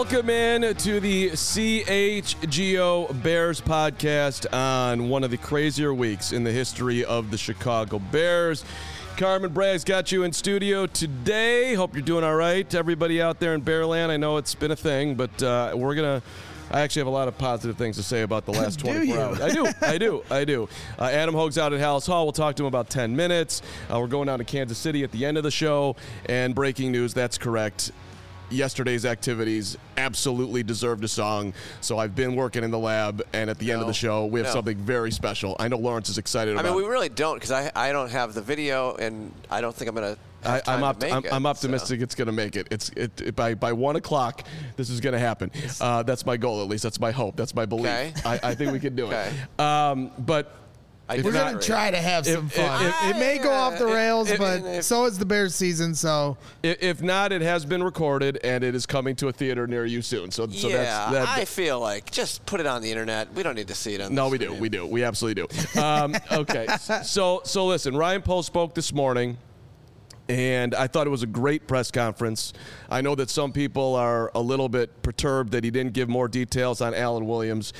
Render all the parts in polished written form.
Welcome in to the CHGO Bears podcast on one of the crazier weeks in the history of the Chicago Bears. Carmen Bragg's got you in studio today. Hope you're doing all right. Everybody out there in Bearland, I know it's been a thing, but I actually have a lot of positive things to say about the last 24 hours. I do. Adam Hogue's out at Hallis Hall. We'll talk to him about 10 minutes. We're going down to Kansas City at the end of the show. And breaking news, that's correct. Yesterday's activities absolutely deserved a song. So I've been working in the lab, and at the end of the show, we have something very special. I know Lawrence is excited about it. I mean, we really don't, because I don't have the video, and I don't think I'm going to I'm optimistic it's going to make it. It's by 1 o'clock, this is going to happen. That's my goal, at least. That's my hope. That's my belief. Okay. I think we can do it. But we're going to try to have some fun. It may go off the rails, but so is the Bears season. So if not, it has been recorded, and it is coming to a theater near you soon. So that's I feel like just put it on the internet. We don't need to see it on. No, we do. We absolutely do. Okay. So listen, Ryan Poles spoke this morning. And I thought it was a great press conference. I know that some people are a little bit perturbed that he didn't give more details on Alan Williams.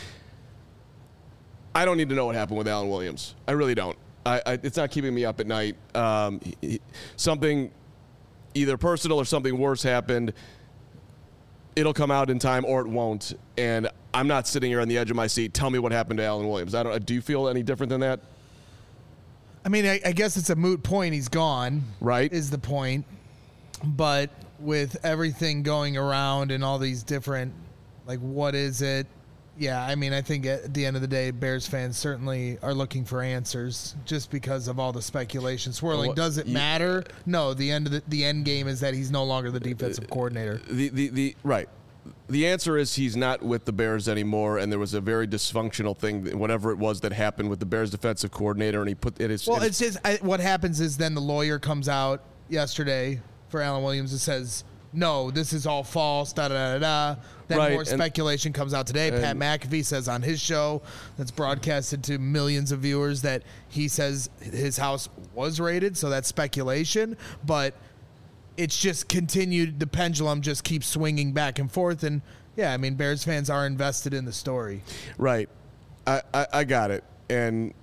I don't need to know what happened with Alan Williams. I really don't. It's not keeping me up at night. Something either personal or something worse happened. It'll come out in time or it won't. And I'm not sitting here on the edge of my seat. Tell me what happened to Alan Williams. Do you feel any different than that? I mean, I guess it's a moot point. He's gone. Right. Is the point. But with everything going around and all these different, like, what is it? Yeah, I mean, I think at the end of the day, Bears fans certainly are looking for answers just because of all the speculation swirling. Does it matter? No, the end game is that he's no longer the defensive coordinator. Right. The answer is he's not with the Bears anymore, and there was a very dysfunctional thing, whatever it was that happened with the Bears defensive coordinator, and he put it is. Well, it's just what happens is then the lawyer comes out yesterday for Alan Williams and says, no, this is all false, da-da-da-da. Then more speculation comes out today. Pat McAfee says on his show that's broadcasted to millions of viewers that he says his house was raided, so that's speculation, but it's just continued. The pendulum just keeps swinging back and forth. And, yeah, I mean, Bears fans are invested in the story. Right. I got it. And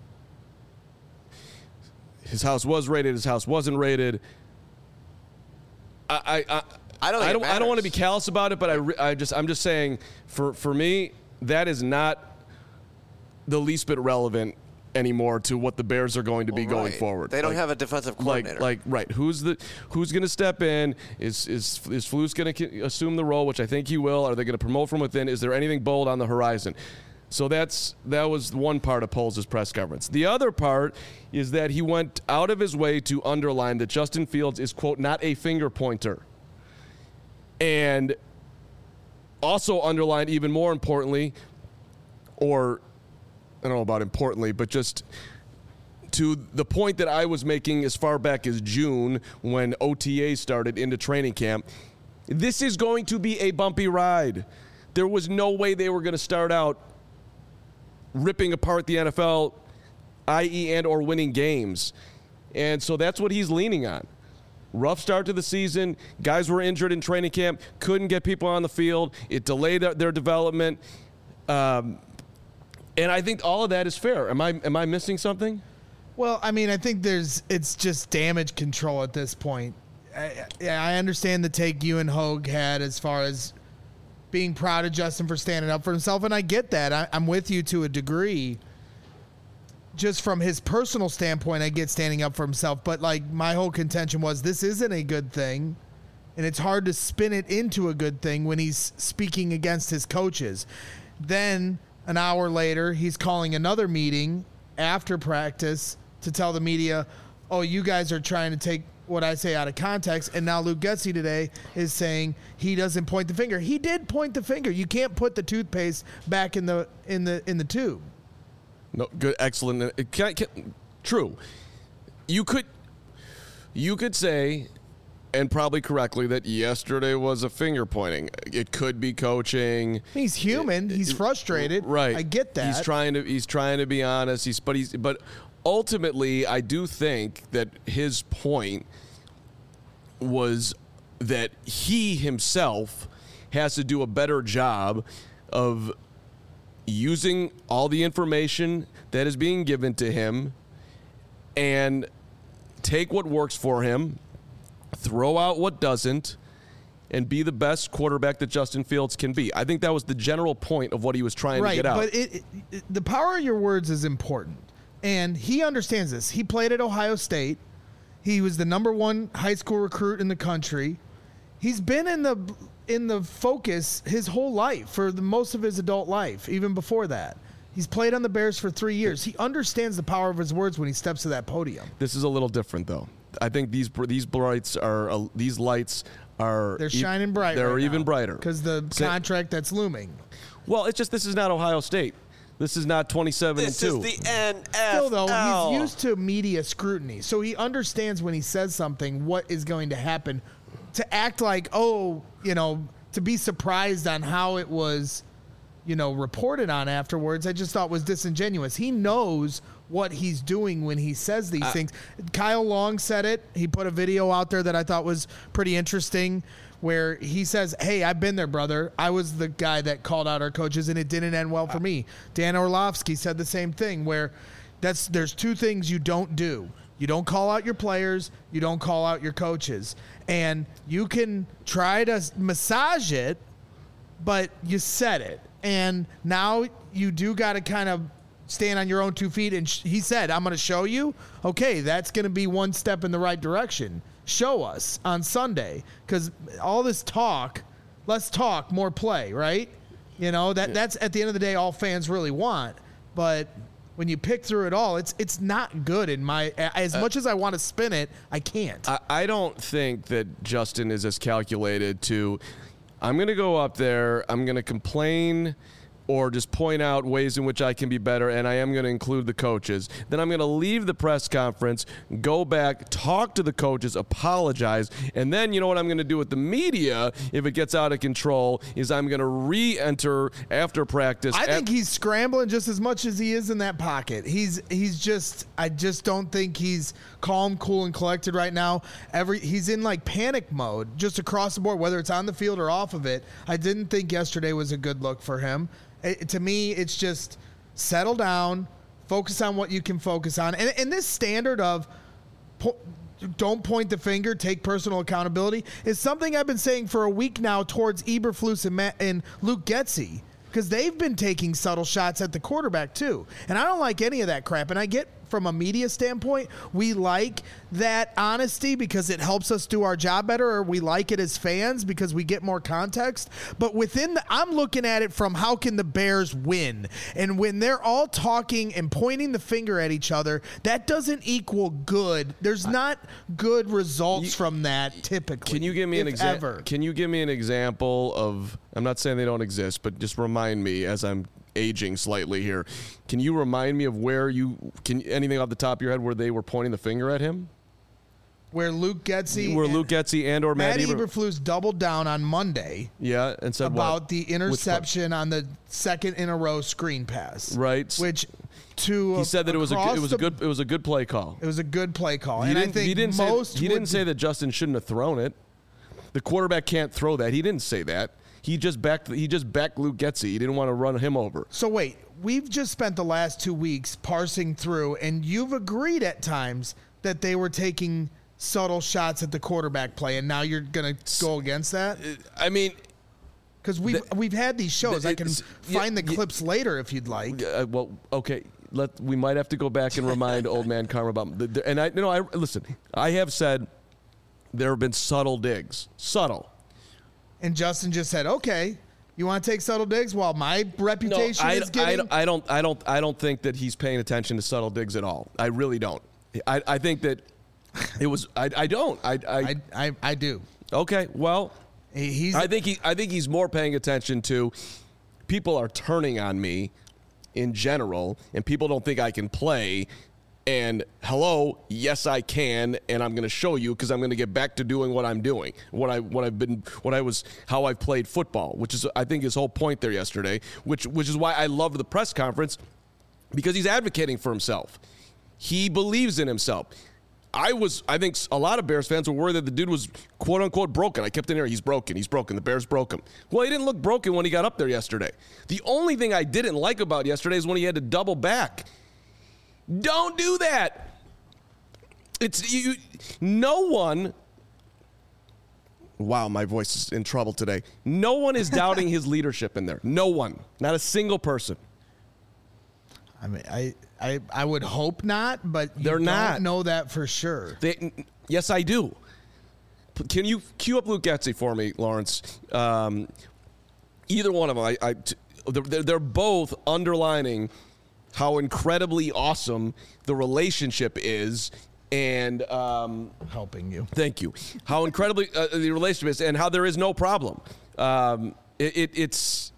his house was raided. His house wasn't raided. I don't want to be callous about it, but I'm just saying, for me, that is not the least bit relevant anymore to what the Bears are going to be going forward. They don't have a defensive coordinator. Right. Who's going to step in? Is Flus going to assume the role, which I think he will? Are they going to promote from within? Is there anything bold on the horizon? So that was one part of Poles' press conference. The other part is that he went out of his way to underline that Justin Fields is, quote, not a finger pointer. And also underlined, even more importantly, or I don't know about importantly, but just to the point that I was making as far back as June when OTA started into training camp, this is going to be a bumpy ride. There was no way they were going to start out ripping apart the NFL, i.e. and or winning games. And so that's what he's leaning on. Rough start to the season. Guys were injured in training camp, couldn't get people on the field. It delayed their development. And I think all of that is fair. Am I missing something? Well, I mean, I think it's just damage control at this point. I understand the take you and Hogue had as far as being proud of Justin for standing up for himself, and I get that. I'm with you to a degree. Just from his personal standpoint, I get standing up for himself, but like my whole contention was this isn't a good thing, and it's hard to spin it into a good thing when he's speaking against his coaches. Then an hour later, he's calling another meeting after practice to tell the media, oh, you guys are trying to take what I say out of context. And now Luke Getsy today is saying he doesn't point the finger. He did point the finger. You can't put the toothpaste back in the tube. No, good, excellent. True. You could say, and probably correctly, that yesterday was a finger pointing. It could be coaching. He's human. He's frustrated. Right. I get that. He's trying to be honest. But ultimately, I do think that his point was that he himself has to do a better job of using all the information that is being given to him and take what works for him, throw out what doesn't, and be the best quarterback that Justin Fields can be. I think that was the general point of what he was trying to get out. But the power of your words is important, and he understands this. He played at Ohio State. He was the #1 high school recruit in the country. He's been in the focus his whole life, for the most of his adult life, even before that. He's played on the Bears for 3 years. He understands the power of his words when he steps to that podium. This is a little different, though. I think these lights are they're shining bright. They're right even brighter because the contract that's looming. Well, it's just this is not Ohio State. This is not 27-2. This is the NFL. Still, though, he's used to media scrutiny, so he understands when he says something what is going to happen. To act like, to be surprised on how it was, reported on afterwards, I just thought was disingenuous. He knows what he's doing when he says these things. Kyle Long said it. He put a video out there that I thought was pretty interesting, where he says, "Hey, I've been there, brother. I was the guy that called out our coaches, and it didn't end well for me." Dan Orlovsky said the same thing, where there's two things you don't do. You don't call out your players. You don't call out your coaches. And you can try to massage it, but you said it. And now you do got to kind of stand on your own 2 feet. And he said, "I'm going to show you." Okay, that's going to be one step in the right direction. Show us on Sunday, because all this talk, less talk, more play, right? That's at the end of the day all fans really want. But when you pick through it all, it's not good in my. As much as I want to spin it, I can't. I don't think that Justin is as calculated to. I'm going to go up there. I'm going to complain or just point out ways in which I can be better, and I am going to include the coaches. Then I'm going to leave the press conference, go back, talk to the coaches, apologize, and then you know what I'm going to do with the media if it gets out of control is I'm going to re-enter after practice. I think he's scrambling just as much as he is in that pocket. I just don't think he's calm, cool, and collected right now. He's in like panic mode just across the board, whether it's on the field or off of it. I didn't think yesterday was a good look for him. To me, it's just settle down, focus on what you can focus on. And this standard of don't point the finger, take personal accountability is something I've been saying for a week now towards Eberflus and Luke Getsy, because they've been taking subtle shots at the quarterback too. And I don't like any of that crap. And I get from a media standpoint, we like that honesty because it helps us do our job better, or we like it as fans because we get more context. But I'm looking at it from how can the Bears win? And when they're all talking and pointing the finger at each other, that doesn't equal good. There's not good results from that typically. Can you give me an example? Can you give me an example of, I'm not saying they don't exist, but just remind me as I'm aging slightly here. Can you remind me of anything off the top of your head where they were pointing the finger at him? Where Luke Getsy and or Matt Eberflus doubled down on Monday. Yeah, and said about the interception on the second in a row screen pass. Right. Which he said that it was a good play call. It was a good play call. He didn't say that Justin shouldn't have thrown it. The quarterback can't throw that. He didn't say that. He just backed Luke Getsy. He didn't want to run him over. So wait, we've just spent the last 2 weeks parsing through, and you've agreed at times that they were taking subtle shots at the quarterback play, and now you're going to go against that? I mean, because we've had these shows. I can find the clips later if you'd like. Well, okay. We might have to go back and remind old man Karma about. Listen. I have said there have been subtle digs. Subtle. And Justin just said, "Okay, you want to take subtle digs while my reputation is getting." I don't think that he's paying attention to subtle digs at all. I really don't. I think that it was. I don't. I do. Okay. Well, I think he's more paying attention to people are turning on me in general, and people don't think I can play. And hello, yes I can, and I'm going to show you because I'm going to get back to doing what I'm doing, how I've played football, which is I think his whole point there yesterday, which is why I love the press conference, because he's advocating for himself. He believes in himself. I think a lot of Bears fans were worried that the dude was quote unquote broken. I kept in here, he's broken. The Bears broke him. Well, he didn't look broken when he got up there yesterday. The only thing I didn't like about yesterday is when he had to double back. Don't do that. No one. Wow, my voice is in trouble today. No one is doubting his leadership in there. No one. Not a single person. I mean, I would hope not, but you don't know that for sure. Yes, I do. Can you cue up Luke Getsy for me, Lawrence? Either one of them. They're both underlining how incredibly awesome the relationship is. And helping you. Thank you. How incredibly the relationship is, and how there is no problem. It's.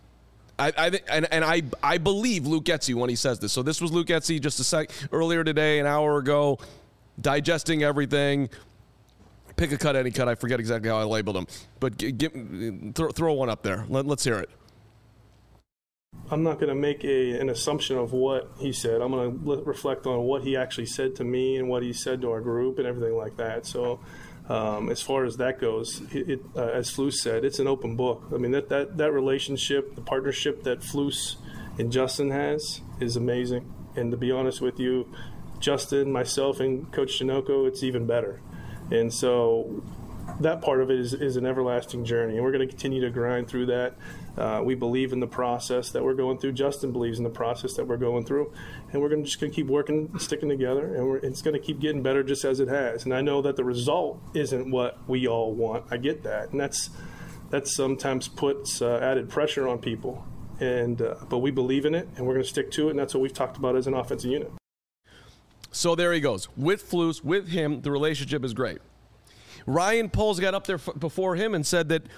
I believe Luke Getsy when he says this. So this was Luke Getsy just earlier today, an hour ago, digesting everything. Pick a cut, any cut. I forget exactly how I labeled him, but throw one up there. Let's hear it. I'm not going to make an assumption of what he said. I'm going to reflect on what he actually said to me and what he said to our group and everything like that. So as far as that goes, as Flus said, it's an open book. I mean, that relationship, the partnership that Flus and Justin has is amazing. And to be honest with you, Justin, myself, and Coach Sunoco, it's even better. And so that part of it is an everlasting journey, and we're going to continue to grind through that. We believe in the process that we're going through. Justin believes in the process that we're going through, and we're just going to keep working, sticking together, and it's going to keep getting better just as it has. And I know that the result isn't what we all want. I get that, and that sometimes puts added pressure on people. And but we believe in it, and we're going to stick to it, and that's what we've talked about as an offensive unit. So there he goes. With Flus, with him, the relationship is great. Ryan Poles got up there before him and said that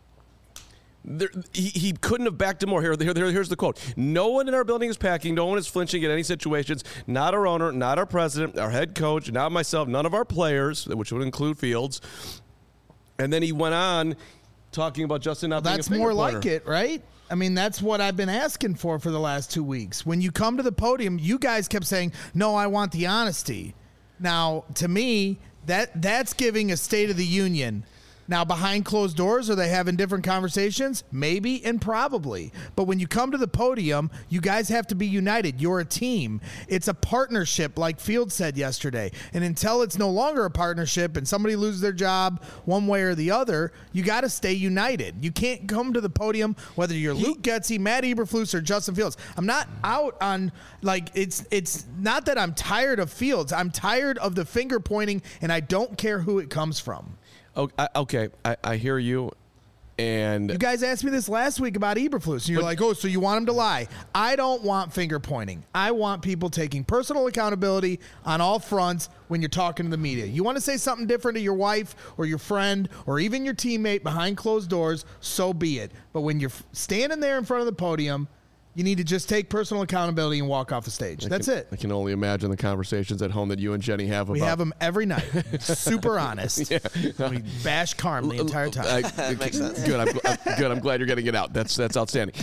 he couldn't have backed him more. Here's the quote. No one in our building is packing. No one is flinching in any situations. Not our owner, not our president, our head coach, not myself, none of our players, which would include Fields. And then he went on talking about Justin not being a finger pointer. That's more pointer. like it, right? I mean, that's what I've been asking for the last 2 weeks. When you come to the podium, you guys kept saying, no, I want the honesty. Now, to me, that's giving a State of the Union. Now, behind closed doors, are they having different conversations? Maybe and probably. But when you come to the podium, you guys have to be united. You're a team. It's a partnership, like Fields said yesterday. And until it's no longer a partnership and somebody loses their job one way or the other, you got to stay united. You can't come to the podium, whether you're Luke Getsy, Matt Eberflus, or Justin Fields. I'm not out on, it's not that I'm tired of Fields. I'm tired of the finger pointing, and I don't care who it comes from. Okay, I hear you. And you guys asked me this last week about Eberflus, and you're like, oh, so you want him to lie. I don't want finger pointing. I want people taking personal accountability on all fronts when you're talking to the media. You want to say something different to your wife or your friend or even your teammate behind closed doors, so be it. But when you're standing there in front of the podium, you need to just take personal accountability and walk off the stage. That's it. I can only imagine the conversations at home that you and Jenny have about. We have them every night. Super honest. Yeah. We bash Carm the entire time. That makes sense. Good. I'm glad you're getting it out. That's outstanding.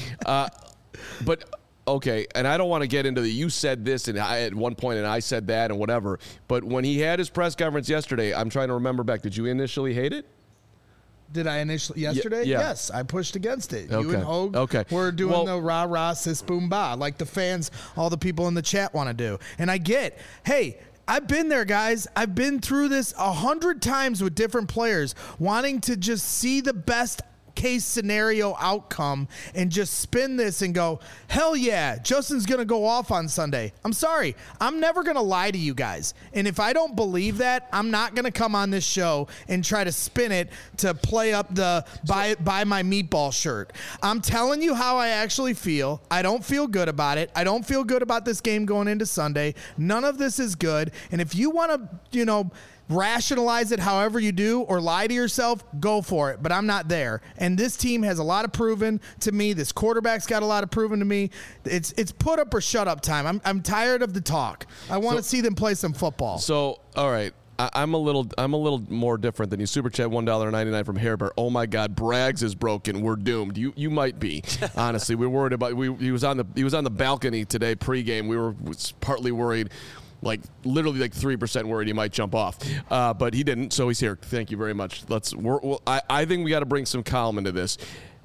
But okay, and I don't want to get into you said this and at one point and I said that and whatever. But when he had his press conference yesterday, I'm trying to remember back. Did you initially hate it? Did I initially yesterday? Yeah. Yes, I pushed against it. Okay. You and Hogue were doing the rah-rah, sis, boom, bah, like the fans, all the people in the chat want to do. And I get, hey, I've been there, guys. I've been through this 100 times with different players, wanting to just see the best case scenario outcome and just spin this and go, hell yeah, Justin's going to go off on Sunday. I'm sorry. I'm never going to lie to you guys. And if I don't believe that, I'm not going to come on this show and try to spin it to play up the buy my meatball shirt. I'm telling you how I actually feel. I don't feel good about it. I don't feel good about this game going into Sunday. None of this is good. And if you want to, rationalize it however you do or lie to yourself, go for it. But I'm not there. And this team has a lot of proven to me. This quarterback's got a lot of proven to me. It's put up or shut up time. I'm tired of the talk. I want to see them play some football. So, all right. I'm a little more different than you. Super chat $1.99 from Hairbear. Oh my God, Braggs is broken. We're doomed. You might be. Honestly, we're worried about. He was on the balcony today pregame. We were partly worried like literally like 3% worried he might jump off, but he didn't, so he's here. Thank you very much. I think we got to bring some calm into this.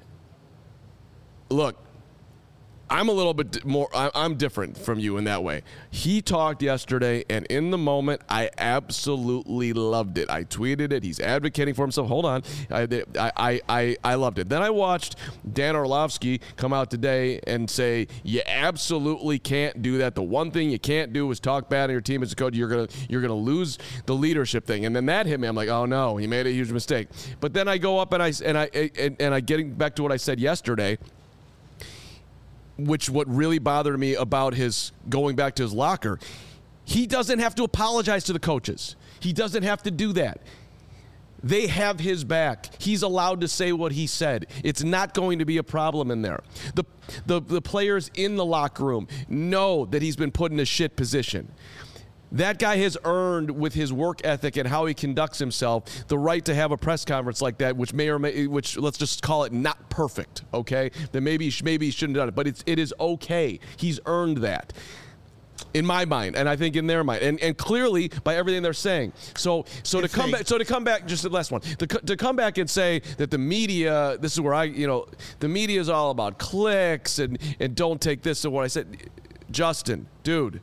Look, I'm a little bit more, I'm different from you in that way. He talked yesterday, and in the moment, I absolutely loved it. I tweeted it. He's advocating for himself. Hold on. I loved it. Then I watched Dan Orlovsky come out today and say, you absolutely can't do that. The one thing you can't do is talk bad on your team as a coach. You're gonna lose the leadership thing. And then that hit me. I'm like, oh no, he made a huge mistake. But then I go up and I getting back to what I said yesterday, which what really bothered me about his going back to his locker, he doesn't have to apologize to the coaches. He doesn't have to do that. They have his back. He's allowed to say what he said. It's not going to be a problem in there. The players in the locker room know that he's been put in a shit position. That guy has earned, with his work ethic and how he conducts himself, the right to have a press conference like that, which let's just call it not perfect, okay? Then maybe he shouldn't have done it, but it is okay. He's earned that, in my mind, and I think in their mind, and clearly by everything they're saying. So to come back, just the last one, to come back and say that the media, this is where the media is all about clicks and don't take this to what I said, Justin, dude.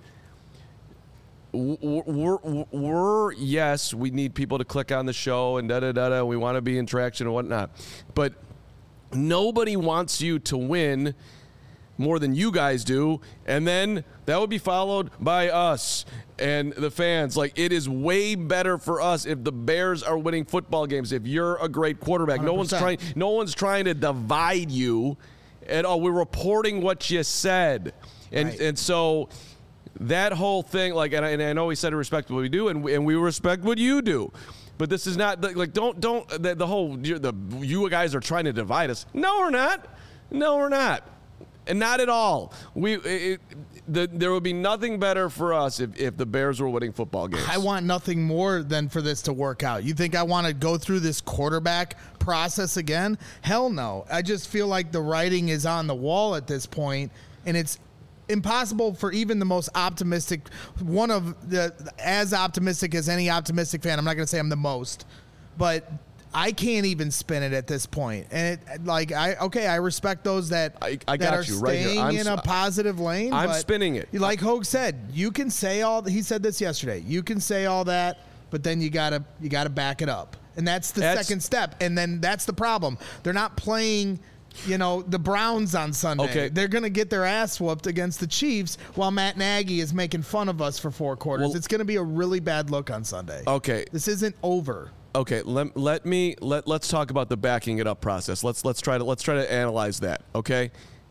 Yes, we need people to click on the show and da-da-da-da. We want to be in traction and whatnot. But nobody wants you to win more than you guys do. And then that would be followed by us and the fans. Like, it is way better for us if the Bears are winning football games, if you're a great quarterback. 100%. No one's trying to divide you at all. We're reporting what you said. And so that whole thing, like, and I know we said to respect what we do, and we respect what you do, but this is not like you guys are trying to divide us. No, we're not, and not at all. There would be nothing better for us if the Bears were winning football games. I want nothing more than for this to work out. You think I want to go through this quarterback process again? Hell no. I just feel like the writing is on the wall at this point, and it's impossible for even the most optimistic, as optimistic as any optimistic fan. I'm not going to say I'm the most, but I can't even spin it at this point. And I respect those that are staying in a positive lane. I'm spinning it. Like Hogue said, you can say he said this yesterday. You can say all that, but then you gotta back it up. And that's the second step. And then that's the problem. They're not playing the Browns on Sunday. Okay. They're going to get their ass whooped against the Chiefs while Matt Nagy is making fun of us for 4 quarters. Well, it's going to be a really bad look on Sunday. Okay. This isn't over. Okay, let's talk about the backing it up process. Let's try to analyze that, okay?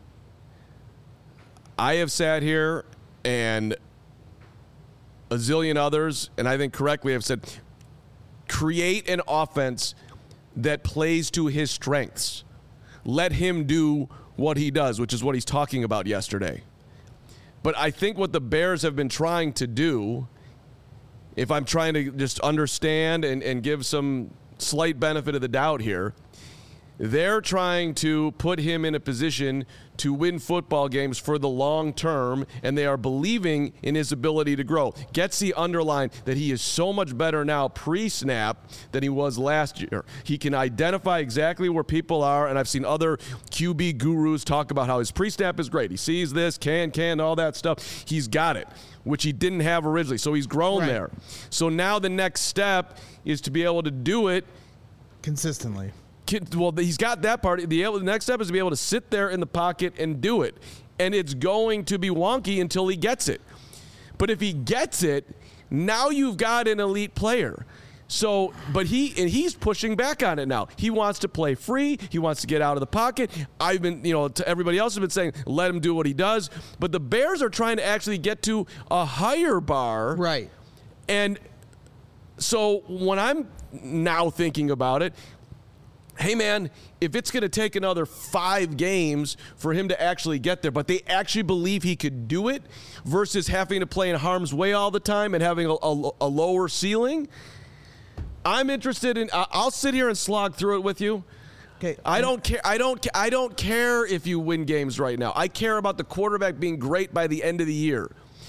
I have sat here and a zillion others, and I think correctly have said, create an offense that plays to his strengths. Let him do what he does, which is what he's talking about yesterday. But I think what the Bears have been trying to do, if I'm trying to just understand and give some slight benefit of the doubt here, they're trying to put him in a position to win football games for the long term, and they are believing in his ability to grow. Getsy underlined that he is so much better now pre-snap than he was last year. He can identify exactly where people are, and I've seen other QB gurus talk about how his pre-snap is great. He sees this, can, all that stuff. He's got it, which he didn't have originally, so he's grown there. So now the next step is to be able to do it consistently. Well, he's got that part. The next step is to be able to sit there in the pocket and do it. And it's going to be wonky until he gets it. But if he gets it, now you've got an elite player. So, but he's pushing back on it now. He wants to play free. He wants to get out of the pocket. I've been, to everybody else has been saying, let him do what he does. But the Bears are trying to actually get to a higher bar. Right. And so when I'm now thinking about it, hey, man, if it's going to take another 5 games for him to actually get there, but they actually believe he could do it versus having to play in harm's way all the time and having a lower ceiling, I'm interested in – I'll sit here and slog through it with you. Okay. I don't care. I don't care if you win games right now. I care about the quarterback being great by the end of the year.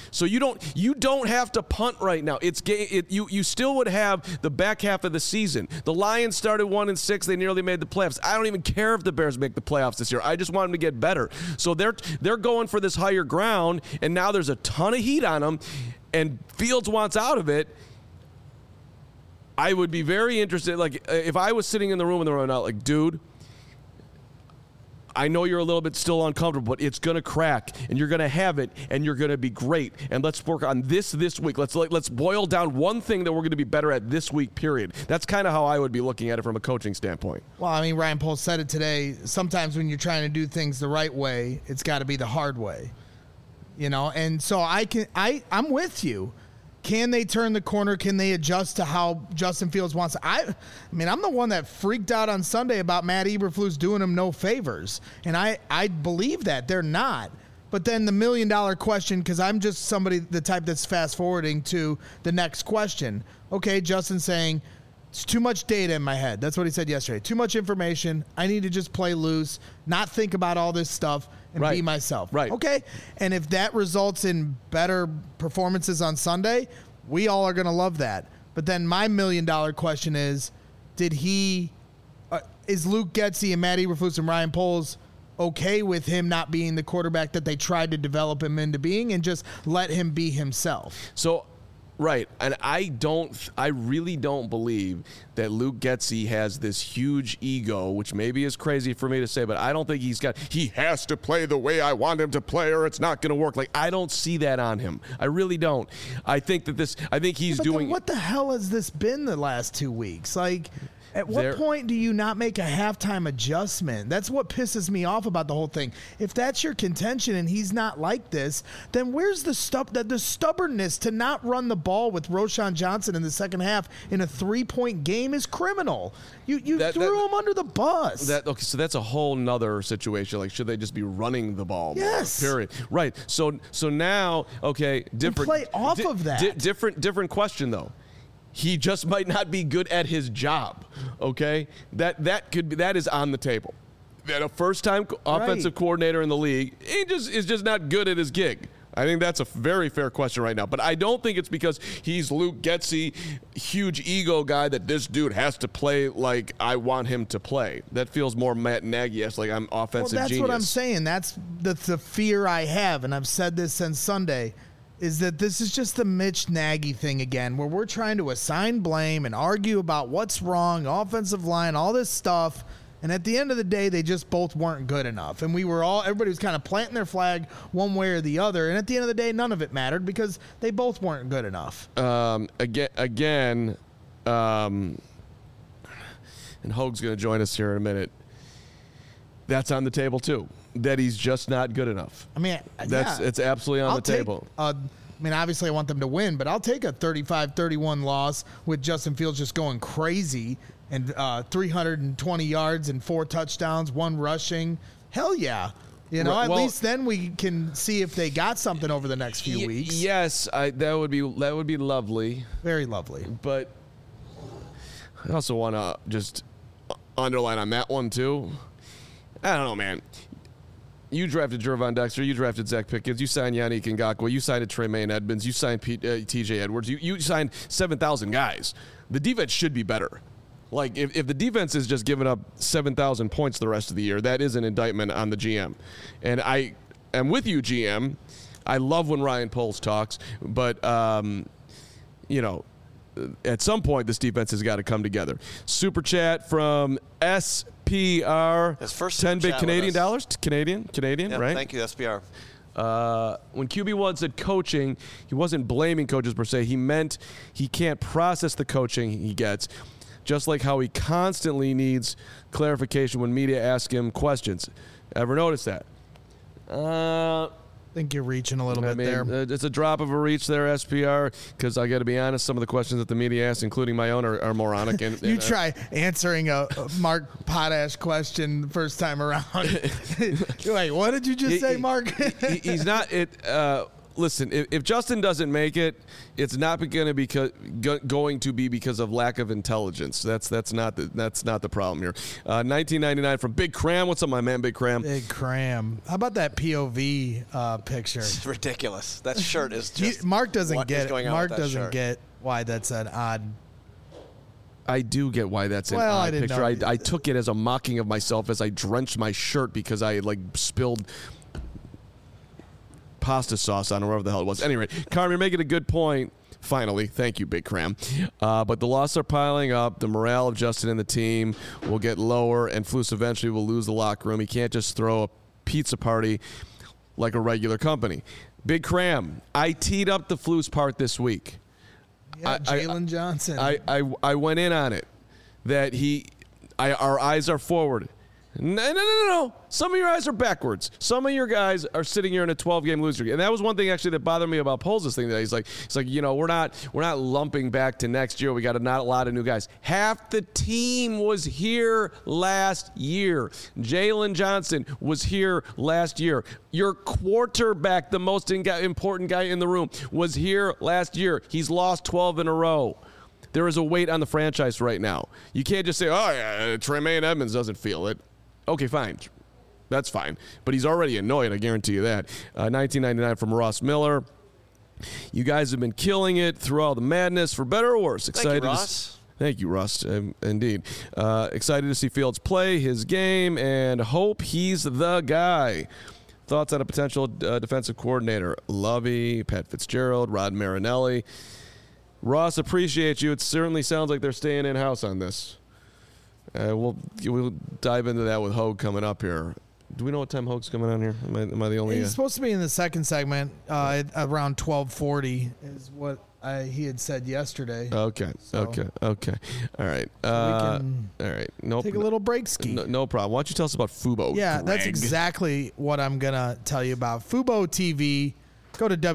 So you don't have to punt right now. You still would have the back half of the season. The Lions started 1-6. They nearly made the playoffs. I don't even care if the Bears make the playoffs this year. I just want them to get better. So they're going for this higher ground, and now there's a ton of heat on them, and Fields wants out of it. I would be very interested. Like, if I was sitting in the room and they're running out, like, dude, I know you're a little bit still uncomfortable, but it's going to crack, and you're going to have it, and you're going to be great. And let's work on this week. Let's boil down one thing that we're going to be better at this week, period. That's kind of how I would be looking at it from a coaching standpoint. Well, I mean, Ryan Poles said it today. Sometimes when you're trying to do things the right way, it's got to be the hard way. You know, and so I'm with you. Can they turn the corner? Can they adjust to how Justin Fields wants? I mean, I'm the one that freaked out on Sunday about Matt Eberflus doing him no favors. And I believe that. They're not. But then the $1 million question, because I'm just the type that's fast forwarding to the next question. Okay, Justin's saying, it's too much data in my head. That's what he said yesterday. Too much information. I need to just play loose, not think about all this stuff, and be myself. Right. Okay? And if that results in better performances on Sunday, we all are going to love that. But then my $1 million question is, is Luke Getsy and Matt Eberflus and Ryan Poles okay with him not being the quarterback that they tried to develop him into being and just let him be himself? So, right, and I really don't believe that Luke Getsy has this huge ego, which maybe is crazy for me to say, but I don't think he has to play the way I want him to play or it's not going to work. Like, I don't see that on him. I really don't. I think he's doing. What the hell has this been the last 2 weeks? Like, at what point do you not make a halftime adjustment? That's what pisses me off about the whole thing. If that's your contention and he's not like this, then where's the stubbornness to not run the ball with Roschon Johnson in the second half in a 3-point game is criminal. You threw him under the bus. Okay, so that's a whole nother situation. Like, should they just be running the ball? Yes. More, period. Right. So now, okay, different. And play off of that. Different question though. He just might not be good at his job, okay? That is on the table. That a first-time offensive coordinator in the league, is just not good at his gig. I think that's a very fair question right now. But I don't think it's because he's Luke Getsy, huge ego guy, that this dude has to play like I want him to play. That feels more Matt Nagy-esque, like I'm offensive genius. Well, that's what I'm saying. That's the fear I have, and I've said this since Sunday, is that this is just the Mitch Nagy thing again, where we're trying to assign blame and argue about what's wrong, offensive line, all this stuff. And at the end of the day, they just both weren't good enough. And everybody was kind of planting their flag one way or the other. And at the end of the day, none of it mattered because they both weren't good enough. Again, and Hoag's going to join us here in a minute. That's on the table too. That he's just not good enough. I mean, it's absolutely on the table. I mean, obviously I want them to win, but I'll take a 35-31 loss with Justin Fields just going crazy and 320 yards and 4 touchdowns, 1 rushing. Hell yeah. You know, at least then we can see if they got something over the next few weeks. Yes, that would be lovely. Very lovely. But I also want to just underline on that one too. I don't know, man. You drafted Gervon Dexter. You drafted Zach Pickens. You signed Yannick Ngakoue. You signed Tremaine Edmonds. You signed T.J. Edwards. You signed 7,000 guys. The defense should be better. Like, if the defense is just giving up 7,000 points the rest of the year, that is an indictment on the GM. And I am with you, GM. I love when Ryan Poles talks, but, you know, at some point this defense has got to come together. Super chat from SPR. His first 10 big chat Canadian with us. dollars. Canadian, Yeah, right? Thank you, SPR. When QB1 said coaching, he wasn't blaming coaches per se. He meant he can't process the coaching he gets, just like how he constantly needs clarification when media ask him questions. Ever notice that? I think you're reaching a little bit there. It's a drop of a reach there, SPR, because I got to be honest, some of the questions that the media asks, including my own, are moronic. And you try answering a Mark Potash question the first time around. You're like, what did you just say, Mark? He's not it. listen, if Justin doesn't make it, it's not going to be because of lack of intelligence. That's not the problem here. 1999 from Big Cram. What's up, my man, Big Cram? Big Cram. How about that POV picture? It's ridiculous. That shirt is just. Mark doesn't get it. Mark doesn't shirt. get why that's an odd. I do get why that's an Well, I odd didn't picture. know. I took it as a mocking of myself as I drenched my shirt because I had spilled pasta sauce on wherever the hell it was. Anyway, Carm, you're making a good point. Finally, thank you, Big Cram. But the losses are piling up. The morale of Justin and the team will get lower, and Flus eventually will lose the locker room. He can't just throw a pizza party like a regular company. Big Cram, I teed up the Flus part this week. Yeah, Jalen Johnson. I went in on it that our eyes are forward. No. Some of your eyes are backwards. Some of your guys are sitting here in a 12-game losing streak. And that was one thing actually that bothered me about Poles' thing today. He's like, we're not lumping back to next year. We got not a lot of new guys. Half the team was here last year. Jalen Johnson was here last year. Your quarterback, the most important guy in the room, was here last year. He's lost 12 in a row. There is a weight on the franchise right now. You can't just say, oh, yeah, Tremaine Edmonds doesn't feel it. Okay, fine. That's fine. But he's already annoyed, I guarantee you that. 1999 from Ross Miller. You guys have been killing it through all the madness, for better or worse. Thank you, Ross. Thank you, Russ. Indeed. Excited to see Fields play his game and hope he's the guy. Thoughts on a potential defensive coordinator? Lovey, Pat Fitzgerald, Rod Marinelli. Ross, appreciate you. It certainly sounds like they're staying in-house on this. We'll dive into that with Hogue coming up here. Do we know what time Hogue's coming on here? Am I the only? He's supposed to be in the second segment around 12:40 is what he had said yesterday. Okay. So, Okay. All right. we can all right. Nope. take a little break ski. No problem. Why don't you tell us about Fubo? Yeah, Greg? that's exactly what I'm going to tell you about. Fubo TV. Go to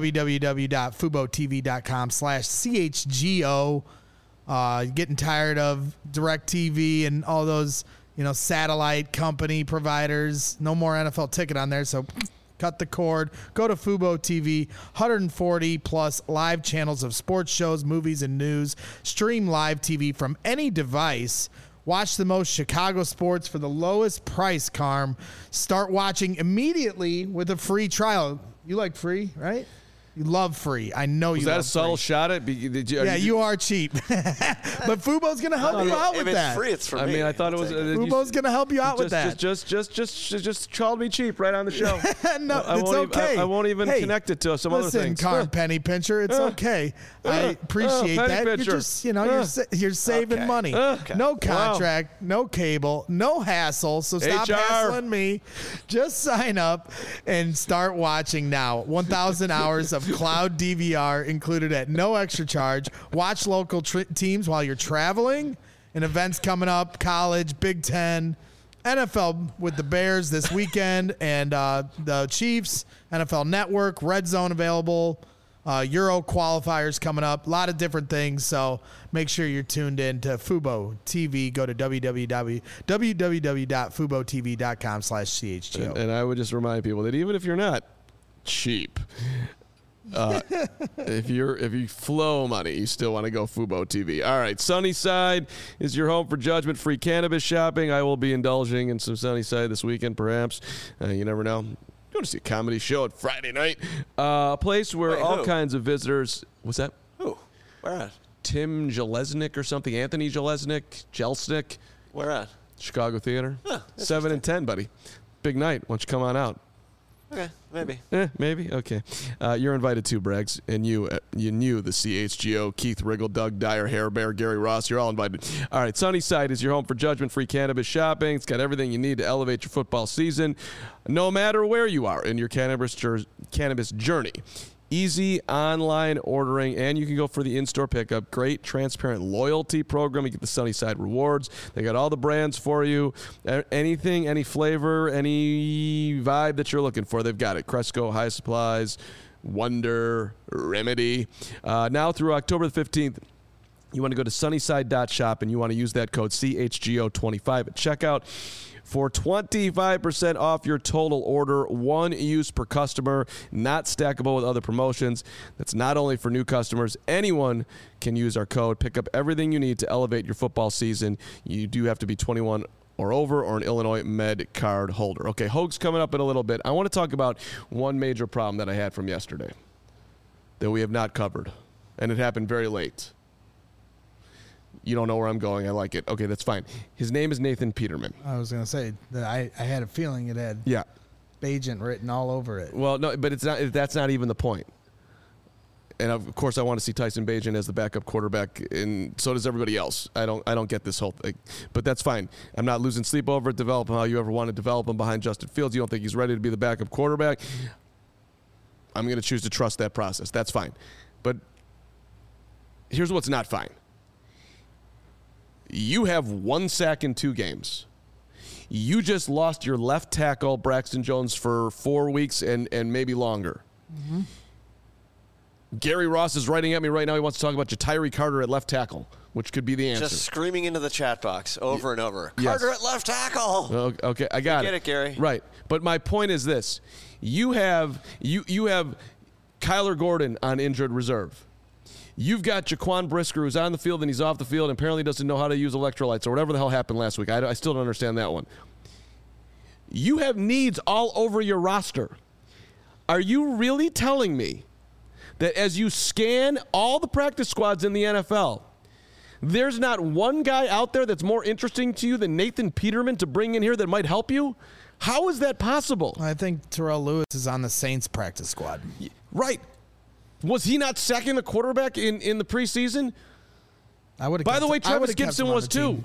www.FuboTV.com/CHGO. Getting tired of DirecTV and all those, satellite company providers. No more NFL ticket on there, so cut the cord. Go to Fubo TV. 140 plus live channels of sports shows, movies, and news. Stream live TV from any device. Watch the most Chicago sports for the lowest price, Carm. Start watching immediately with a free trial. You like free, right? You love free. I know you love free. Was that a subtle shot at? You are cheap. But Fubo's going to help you out with that. If it's free, it's for me. I mean, I thought it was. Fubo's going to help you out with that. Just called me cheap right on the show. No, it's okay. I won't even connect it to some other things. Listen, Carm Penny Pincher, it's okay. I appreciate that. Pincher. You're just, you're saving money. No contract, no cable, no hassle. So stop HR. hassling me. Just sign up and start watching now. 1,000 hours of cloud DVR included at no extra charge. Watch local teams while you're traveling and events coming up, college, Big Ten, NFL with the Bears this weekend and the Chiefs, NFL Network, Red Zone available, Euro qualifiers coming up, a lot of different things. So make sure you're tuned in to Fubo TV. Go to www.FuboTV.com/CHGO. And I would just remind people that even if you're not cheap, if you flow money, you still want to go Fubo TV. All right, Sunnyside is your home for judgment-free cannabis shopping. I will be indulging in some Sunnyside this weekend, perhaps. You never know. Going to see a comedy show at Friday night. A place where all kinds of visitors. What's that? Who? Where at? Tim Jelesnik or something. Anthony Jelesnik. Where at? Chicago Theater. 7 and 10, buddy. Big night. Why don't you come on out? Okay, maybe. Maybe. Okay. You're invited too, Braggs. And you knew the CHGO, Keith Riggle, Doug Dyer, Hair Bear, Gary Ross. You're all invited. All right. Sunnyside is your home for judgment-free cannabis shopping. It's got everything you need to elevate your football season, no matter where you are in your cannabis journey. Easy online ordering, and you can go for the in-store pickup. Great, transparent loyalty program. You get the Sunnyside rewards. They got all the brands for you. Anything, any flavor, any vibe that you're looking for, they've got it. Cresco, High Supplies, Wonder, Remedy. Now through October the 15th, You want to go to sunnyside.shop and you want to use that code CHGO25 at checkout for 25% off your total order. One use per customer, not stackable with other promotions. That's not only for new customers. Anyone can use our code. Pick up everything you need to elevate your football season. You do have to be 21 or over or an Illinois Med card holder. Okay, Hoag's coming up in a little bit. I want to talk about one major problem that I had from yesterday that we have not covered, and it happened very late. You don't know where I'm going. I like it. Okay, that's fine. His name is Nathan Peterman. I was going to say that I had a feeling it had Bagent written all over it. Well, no, but it's not. That's not even the point. And of course, I want to see Tyson Bagent as the backup quarterback, and so does everybody else. I don't get this whole thing, but that's fine. I'm not losing sleep over it. Develop him how you ever want to develop him behind Justin Fields. You don't think he's ready to be the backup quarterback. I'm going to choose to trust that process. That's fine. But here's what's not fine. You have 1 sack in 2 games. You just lost your left tackle, Braxton Jones, for 4 weeks and maybe longer. Mm-hmm. Gary Ross is writing at me right now. He wants to talk about Ja'Tyre Carter at left tackle, which could be the answer. Just screaming into the chat box over and over. Carter at left tackle. Okay, I got it. Get it, Gary. Right. But my point is this. You have Kyler Gordon on injured reserve. You've got Jaquan Brisker, who's on the field and he's off the field and apparently doesn't know how to use electrolytes or whatever the hell happened last week. I still don't understand that one. You have needs all over your roster. Are you really telling me that as you scan all the practice squads in the NFL, there's not one guy out there that's more interesting to you than Nathan Peterman to bring in here that might help you? How is that possible? I think Terrell Lewis is on the Saints practice squad. Right. Was he not sacking the quarterback in the preseason? By the way, Travis Gibson was too.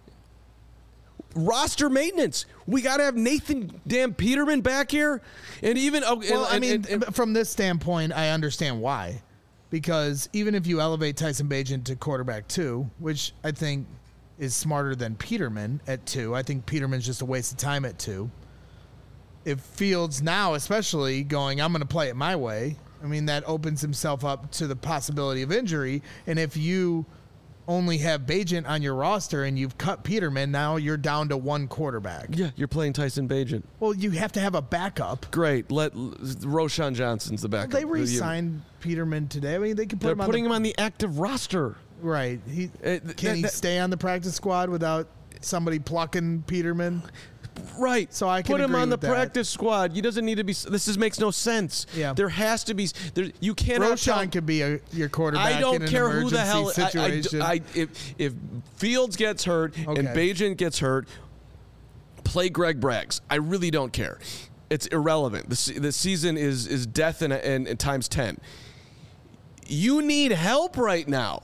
Roster maintenance. We got to have Nathan damn Peterman back here. And even from this standpoint, I understand why. Because even if you elevate Tyson Bagent to quarterback 2, which I think is smarter than Peterman at 2, I think Peterman's just a waste of time at 2. If Fields now, especially going, I'm going to play it my way, I mean, that opens himself up to the possibility of injury. And if you only have Bagent on your roster and you've cut Peterman, now you're down to 1 quarterback. Yeah, you're playing Tyson Bagent. Well, you have to have a backup. Great. Roshan Johnson's the backup. Well, they re-signed Peterman today. I mean, they could put him on the active roster. Right. Can he stay on the practice squad without somebody plucking Peterman? Right. So I can put him agree on the with that. practice squad. He doesn't need to be. Makes no sense. Yeah. There has to be. You cannot. Roshan could be your quarterback. I don't in an care who the hell. Situation. If Fields gets hurt and Bagent gets hurt, play Greg Braggs. I really don't care. It's irrelevant. The season is death and times 10. You need help right now.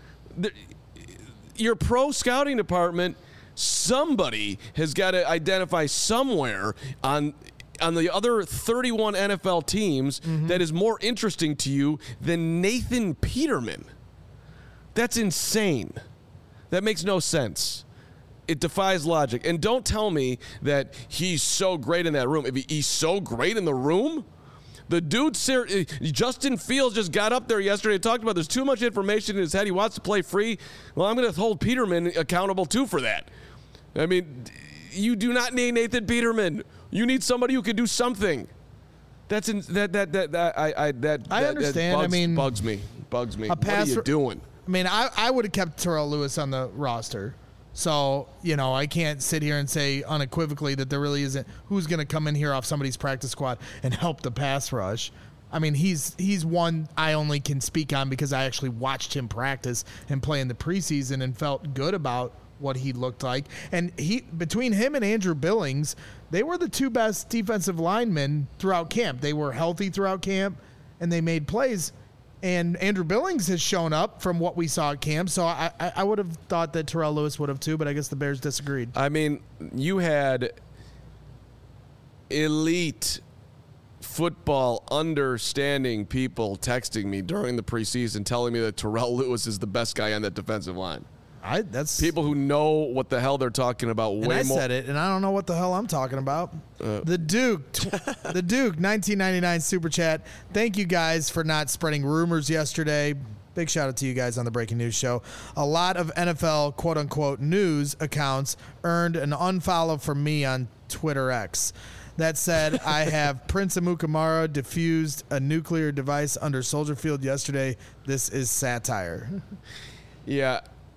Your pro scouting department. Somebody has got to identify somewhere on the other 31 NFL teams that is more interesting to you than Nathan Peterman. That's insane. That makes no sense. It defies logic. And don't tell me that he's so great in that room. If he's so great in the room, the dude, Justin Fields, just got up there yesterday and talked about there's too much information in his head. He wants to play free. Well, I'm going to hold Peterman accountable, too, for that. I mean, you do not need Nathan Peterman. You need somebody who can do something. I understand. Bugs me. What are you doing? I mean, I would have kept Terrell Lewis on the roster. So, I can't sit here and say unequivocally that there really isn't who's going to come in here off somebody's practice squad and help the pass rush. I mean, he's one I only can speak on because I actually watched him practice and play in the preseason and felt good about what he looked like. And between him and Andrew Billings, they were the 2 best defensive linemen throughout camp. They were healthy throughout camp, and they made plays. And Andrew Billings has shown up from what we saw at camp, so I would have thought that Terrell Lewis would have too, but I guess the Bears disagreed. I mean, you had elite football understanding people texting me during the preseason telling me that Terrell Lewis is the best guy on that defensive line. That's people who know what the hell they're talking about. And I said it, and I don't know what the hell I'm talking about. The Duke, 1999 Super Chat. Thank you guys for not spreading rumors yesterday. Big shout out to you guys on the Breaking News Show. A lot of NFL quote-unquote news accounts earned an unfollow from me on Twitter X. That said, I have Prince Amukamara defused a nuclear device under Soldier Field yesterday. This is satire. Yeah.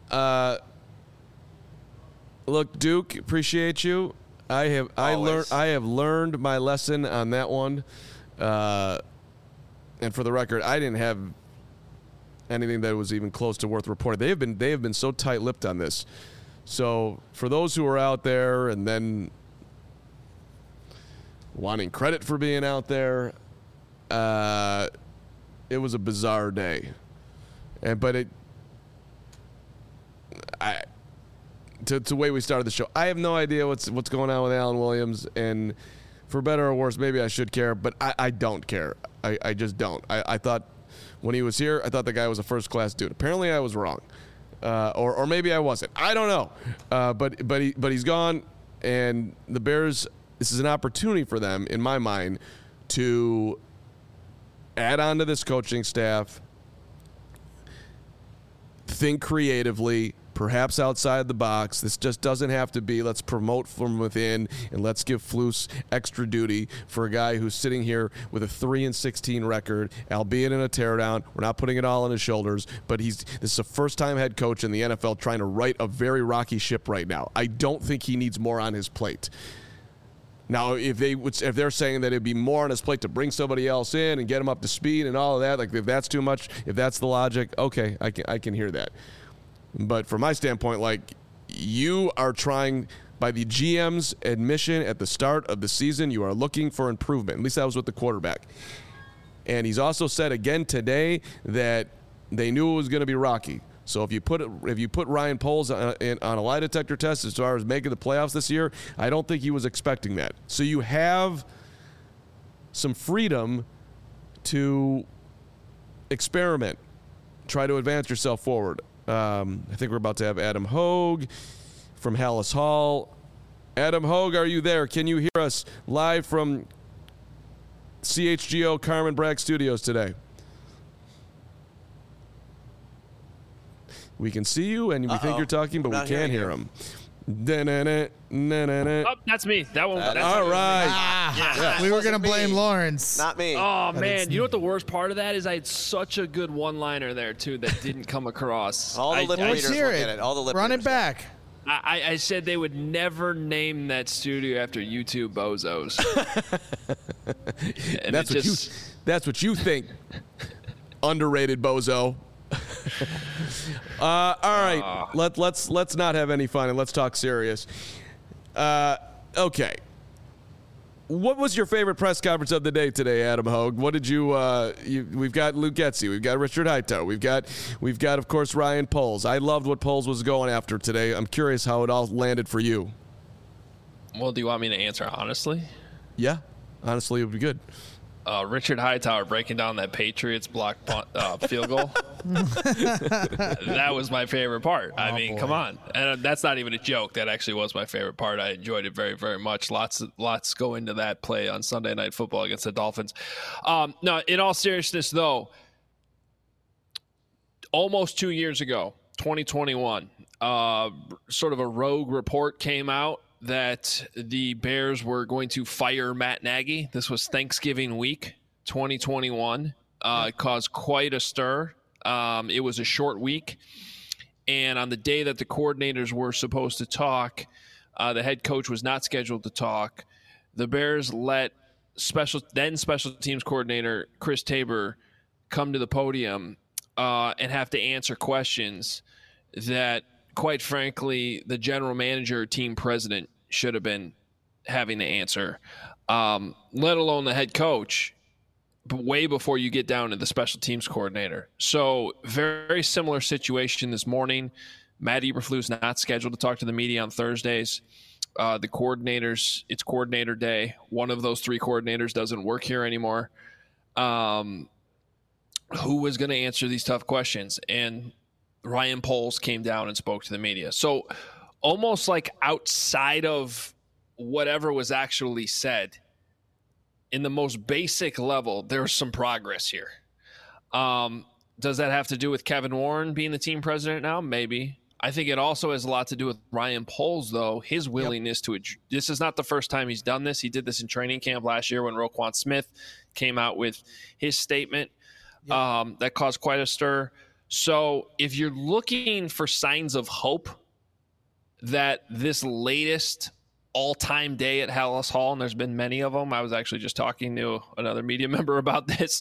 Look, Duke, appreciate you. I have learned my lesson on that one. And for the record, I didn't have anything that was even close to worth reporting. They have been so tight-lipped on this. So for those who are out there and then wanting credit for being out there, it was a bizarre day. To the way we started the show, I have no idea what's going on with Alan Williams, and for better or worse, maybe I should care, but I don't care. I just don't. I thought when he was here, I thought the guy was a first-class dude. Apparently, I was wrong, or maybe I wasn't. I don't know. But he's gone, and the Bears. This is an opportunity for them, in my mind, to add on to this coaching staff, think creatively, perhaps outside the box. This just doesn't have to be let's promote from within and let's give Flus extra duty for a guy who's sitting here with a 3-16 record, albeit in a teardown. We're not putting it all on his shoulders, but this is a first-time head coach in the NFL trying to right a very rocky ship right now. I don't think he needs more on his plate. Now, if they're saying that it'd be more on his plate to bring somebody else in and get him up to speed and all of that, like if that's too much, if that's the logic, okay, I can hear that. But from my standpoint, like you are trying, by the GM's admission at the start of the season, you are looking for improvement. At least that was with the quarterback. And he's also said again today that they knew it was going to be rocky. So if you put Ryan Poles on a lie detector test as far as making the playoffs this year, I don't think he was expecting that. So you have some freedom to experiment, try to advance yourself forward. I think we're about to have Adam Hogue from Hallis Hall. Adam Hogue, are you there? Can you hear us live from CHGO Carmen Bragg Studios today? We can see you, and we think you're talking, but we can't hear him. Oh, that's me. That one. That's all right. Yeah. We were going to blame Lawrence. Not me. Oh, man. You know what the worst part of that is? I had such a good one-liner there, too, that didn't come across. All the lip readers will get it. All the lip Run readers. It back. I said they would never name that studio after you two bozos. And that's what you think, underrated bozo. All right, let's not have any fun and let's talk serious. Okay, what was your favorite press conference of the day today, Adam Hogue? What did you? We've got Luke Getsy, we've got Richard Hightower, we've got of course Ryan Poles. I loved what Poles was going after today. I'm curious how it all landed for you. Well, do you want me to answer honestly? Yeah, honestly, it would be good. Richard Hightower breaking down that Patriots block punt, field goal. That was my favorite part. I mean, come on. And that's not even a joke. That actually was my favorite part. I enjoyed it very, very much. Lots go into that play on Sunday Night Football against the Dolphins. No, in all seriousness, though, almost 2 years ago, 2021, sort of a rogue report came out that the Bears were going to fire Matt Nagy. This was Thanksgiving week, 2021. It caused quite a stir. It was a short week. And on the day that the coordinators were supposed to talk, the head coach was not scheduled to talk. The Bears let special teams coordinator Chris Tabor come to the podium and have to answer questions that, quite frankly, the general manager or team president should have been having to answer, let alone the head coach, but way before you get down to the special teams coordinator. So very similar situation this morning. Matt Eberflus not scheduled to talk to the media on Thursdays. The coordinators, it's coordinator day. One of those three coordinators doesn't work here anymore. Who was going to answer these tough questions? And Ryan Poles came down and spoke to the media. So almost like outside of whatever was actually said, in the most basic level, there's some progress here. Does that have to do with Kevin Warren being the team president now? Maybe. I think it also has a lot to do with Ryan Poles, though. His willingness to – this is not the first time he's done this. He did this in training camp last year when Roquan Smith came out with his statement. That caused quite a stir. So if you're looking for signs of hope that this latest all-time day at Hallis Hall, and there's been many of them. I was actually just talking to another media member about this.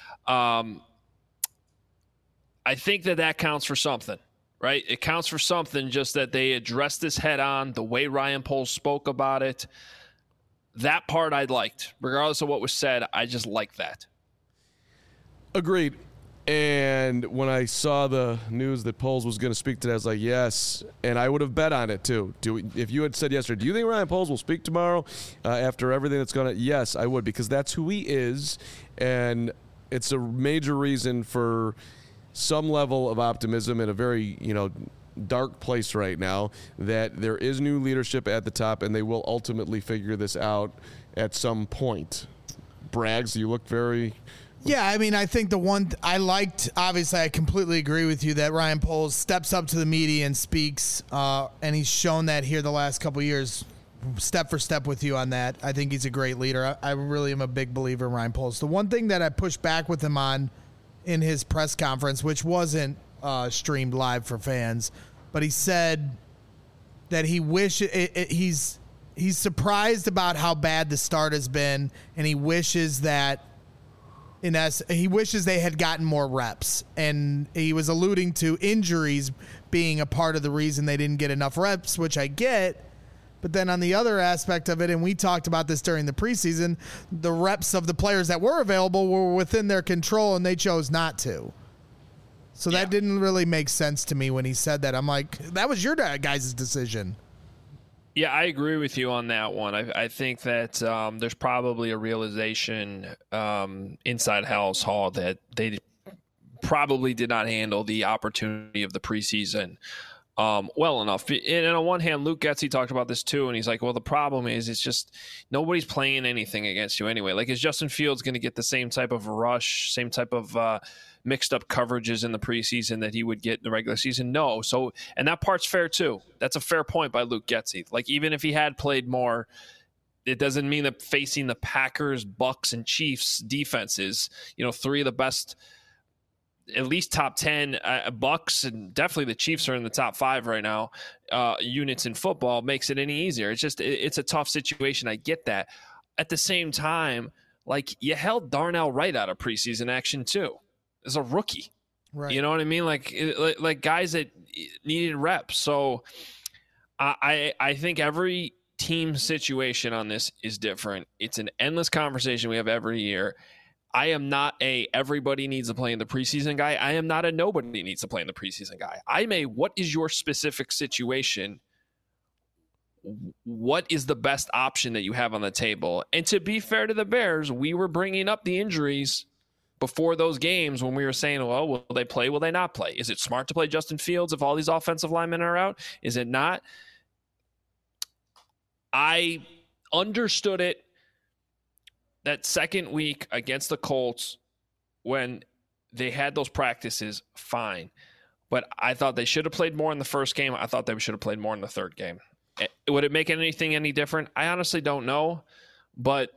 I think that counts for something, right? It counts for something, just that they addressed this head on, the way Ryan Poles spoke about it. That part I liked. Regardless of what was said, I just liked that. Agreed. And when I saw the news that Poles was going to speak today, I was like, yes. And I would have bet on it, too. If you had said yesterday, do you think Ryan Poles will speak tomorrow after everything that's going on? Yes, I would, because that's who he is. And it's a major reason for some level of optimism in a very, dark place right now, that there is new leadership at the top, and they will ultimately figure this out at some point. Braggs, you look very... Yeah, I mean, I think the one I liked, obviously, I completely agree with you that Ryan Poles steps up to the media and speaks, and he's shown that here the last couple of years, step for step with you on that. I think he's a great leader. I really am a big believer in Ryan Poles. The one thing that I pushed back with him on in his press conference, which wasn't streamed live for fans, but he said that he he's surprised about how bad the start has been, and he wishes that he wishes they had gotten more reps, and he was alluding to injuries being a part of the reason they didn't get enough reps, which I get. But then on the other aspect of it, and we talked about this during the preseason, the reps of the players that were available were within their control, and they chose not to. So that didn't really make sense to me when he said that. I'm like, that was your guys' decision. Yeah, I agree with you on that one. I think that there's probably a realization inside Hallis Hall that they probably did not handle the opportunity of the preseason well enough. And on one hand, Luke Getsy talked about this too, and he's like, well, the problem is it's just nobody's playing anything against you anyway. Like, is Justin Fields going to get the same type of rush, same type of mixed up coverages in the preseason that he would get in the regular season? No. So, and that part's fair too. That's a fair point by Luke Getsy. Like, even if he had played more, it doesn't mean that facing the Packers, Bucks, and Chiefs defenses, three of the best, at least top 10 Bucks, and definitely the Chiefs are in the top 5 right now, units in football, makes it any easier. It's just, it's a tough situation. I get that. At the same time, like, you held Darnell Wright out of preseason action too. As a rookie, right? You know what I mean? Like guys that needed reps. So I think every team situation on this is different. It's an endless conversation we have every year. I am not a everybody needs to play in the preseason guy. I am not a nobody needs to play in the preseason guy. I'm a what is your specific situation? What is the best option that you have on the table? And to be fair to the Bears, we were bringing up the injuries before those games when we were saying, well, will they play? Will they not play? Is it smart to play Justin Fields if all these offensive linemen are out? Is it not? I understood it that second week against the Colts when they had those practices, fine. But I thought they should have played more in the first game. I thought they should have played more in the third game. Would it make anything any different? I honestly don't know. But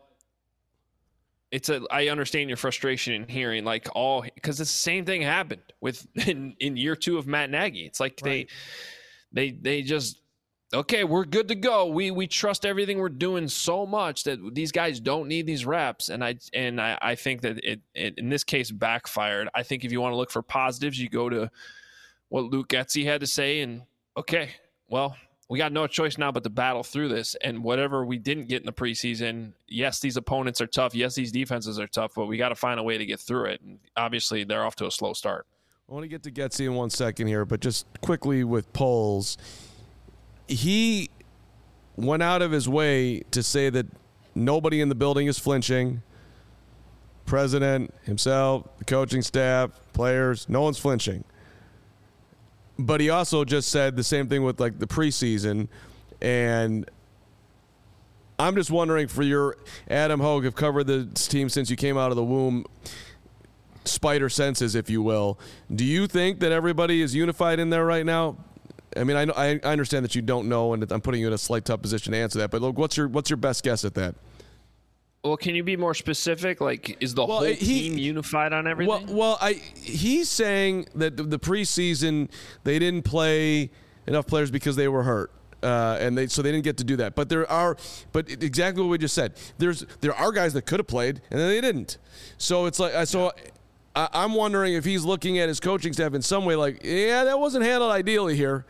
I understand your frustration in hearing because the same thing happened with in year 2 of Matt Nagy. It's like right. they just, okay, we're good to go. We trust everything we're doing so much that these guys don't need these reps. And I think that it in this case backfired. I think if you want to look for positives, you go to what Luke Getsy had to say, and okay, well, we got no choice now but to battle through this. And whatever we didn't get in the preseason, yes, these opponents are tough. Yes, these defenses are tough, but we got to find a way to get through it. And obviously, they're off to a slow start. I want to get to Getsy in 1 second here, but just quickly with Poles, he went out of his way to say that nobody in the building is flinching. President, himself, the coaching staff, players, no one's flinching. But he also just said the same thing with the preseason, and I'm just wondering, for your Adam Hogue, have covered this team since you came out of the womb. spider senses, if you will. Do you think that everybody is unified in there right now? I mean, I understand that you don't know, and I'm putting you in a slight tough position to answer that. But look, what's your best guess at that? Well, can you be more specific? Like, is the whole team unified on everything? He's saying that the preseason they didn't play enough players because they were hurt. So they didn't get to do that. But exactly what we just said. There are guys that could have played and then they didn't. So it's like I'm wondering if he's looking at his coaching staff in some way like, yeah, that wasn't handled ideally here.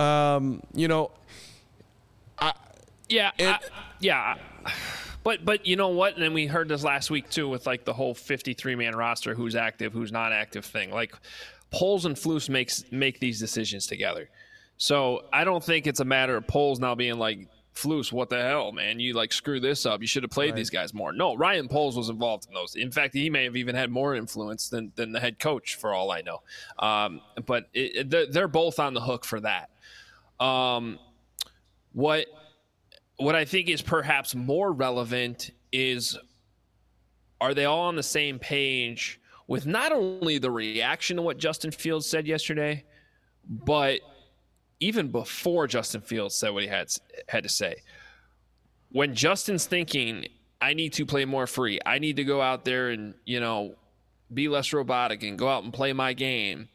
But you know what? And then we heard this last week too with like the whole 53-man roster, who's active, who's not active thing. Like Poles and Flus make these decisions together. So I don't think it's a matter of Poles now being like, Flus, what the hell, man? You like screw this up. You should have played these guys more. No, Ryan Poles was involved in those. In fact, he may have even had more influence than the head coach, for all I know. But they're both on the hook for that. What I think is perhaps more relevant is, are they all on the same page with not only the reaction to what Justin Fields said yesterday, but even before Justin Fields said what he had to say. When Justin's thinking, I need to play more free, I need to go out there and, be less robotic and go out and play my game,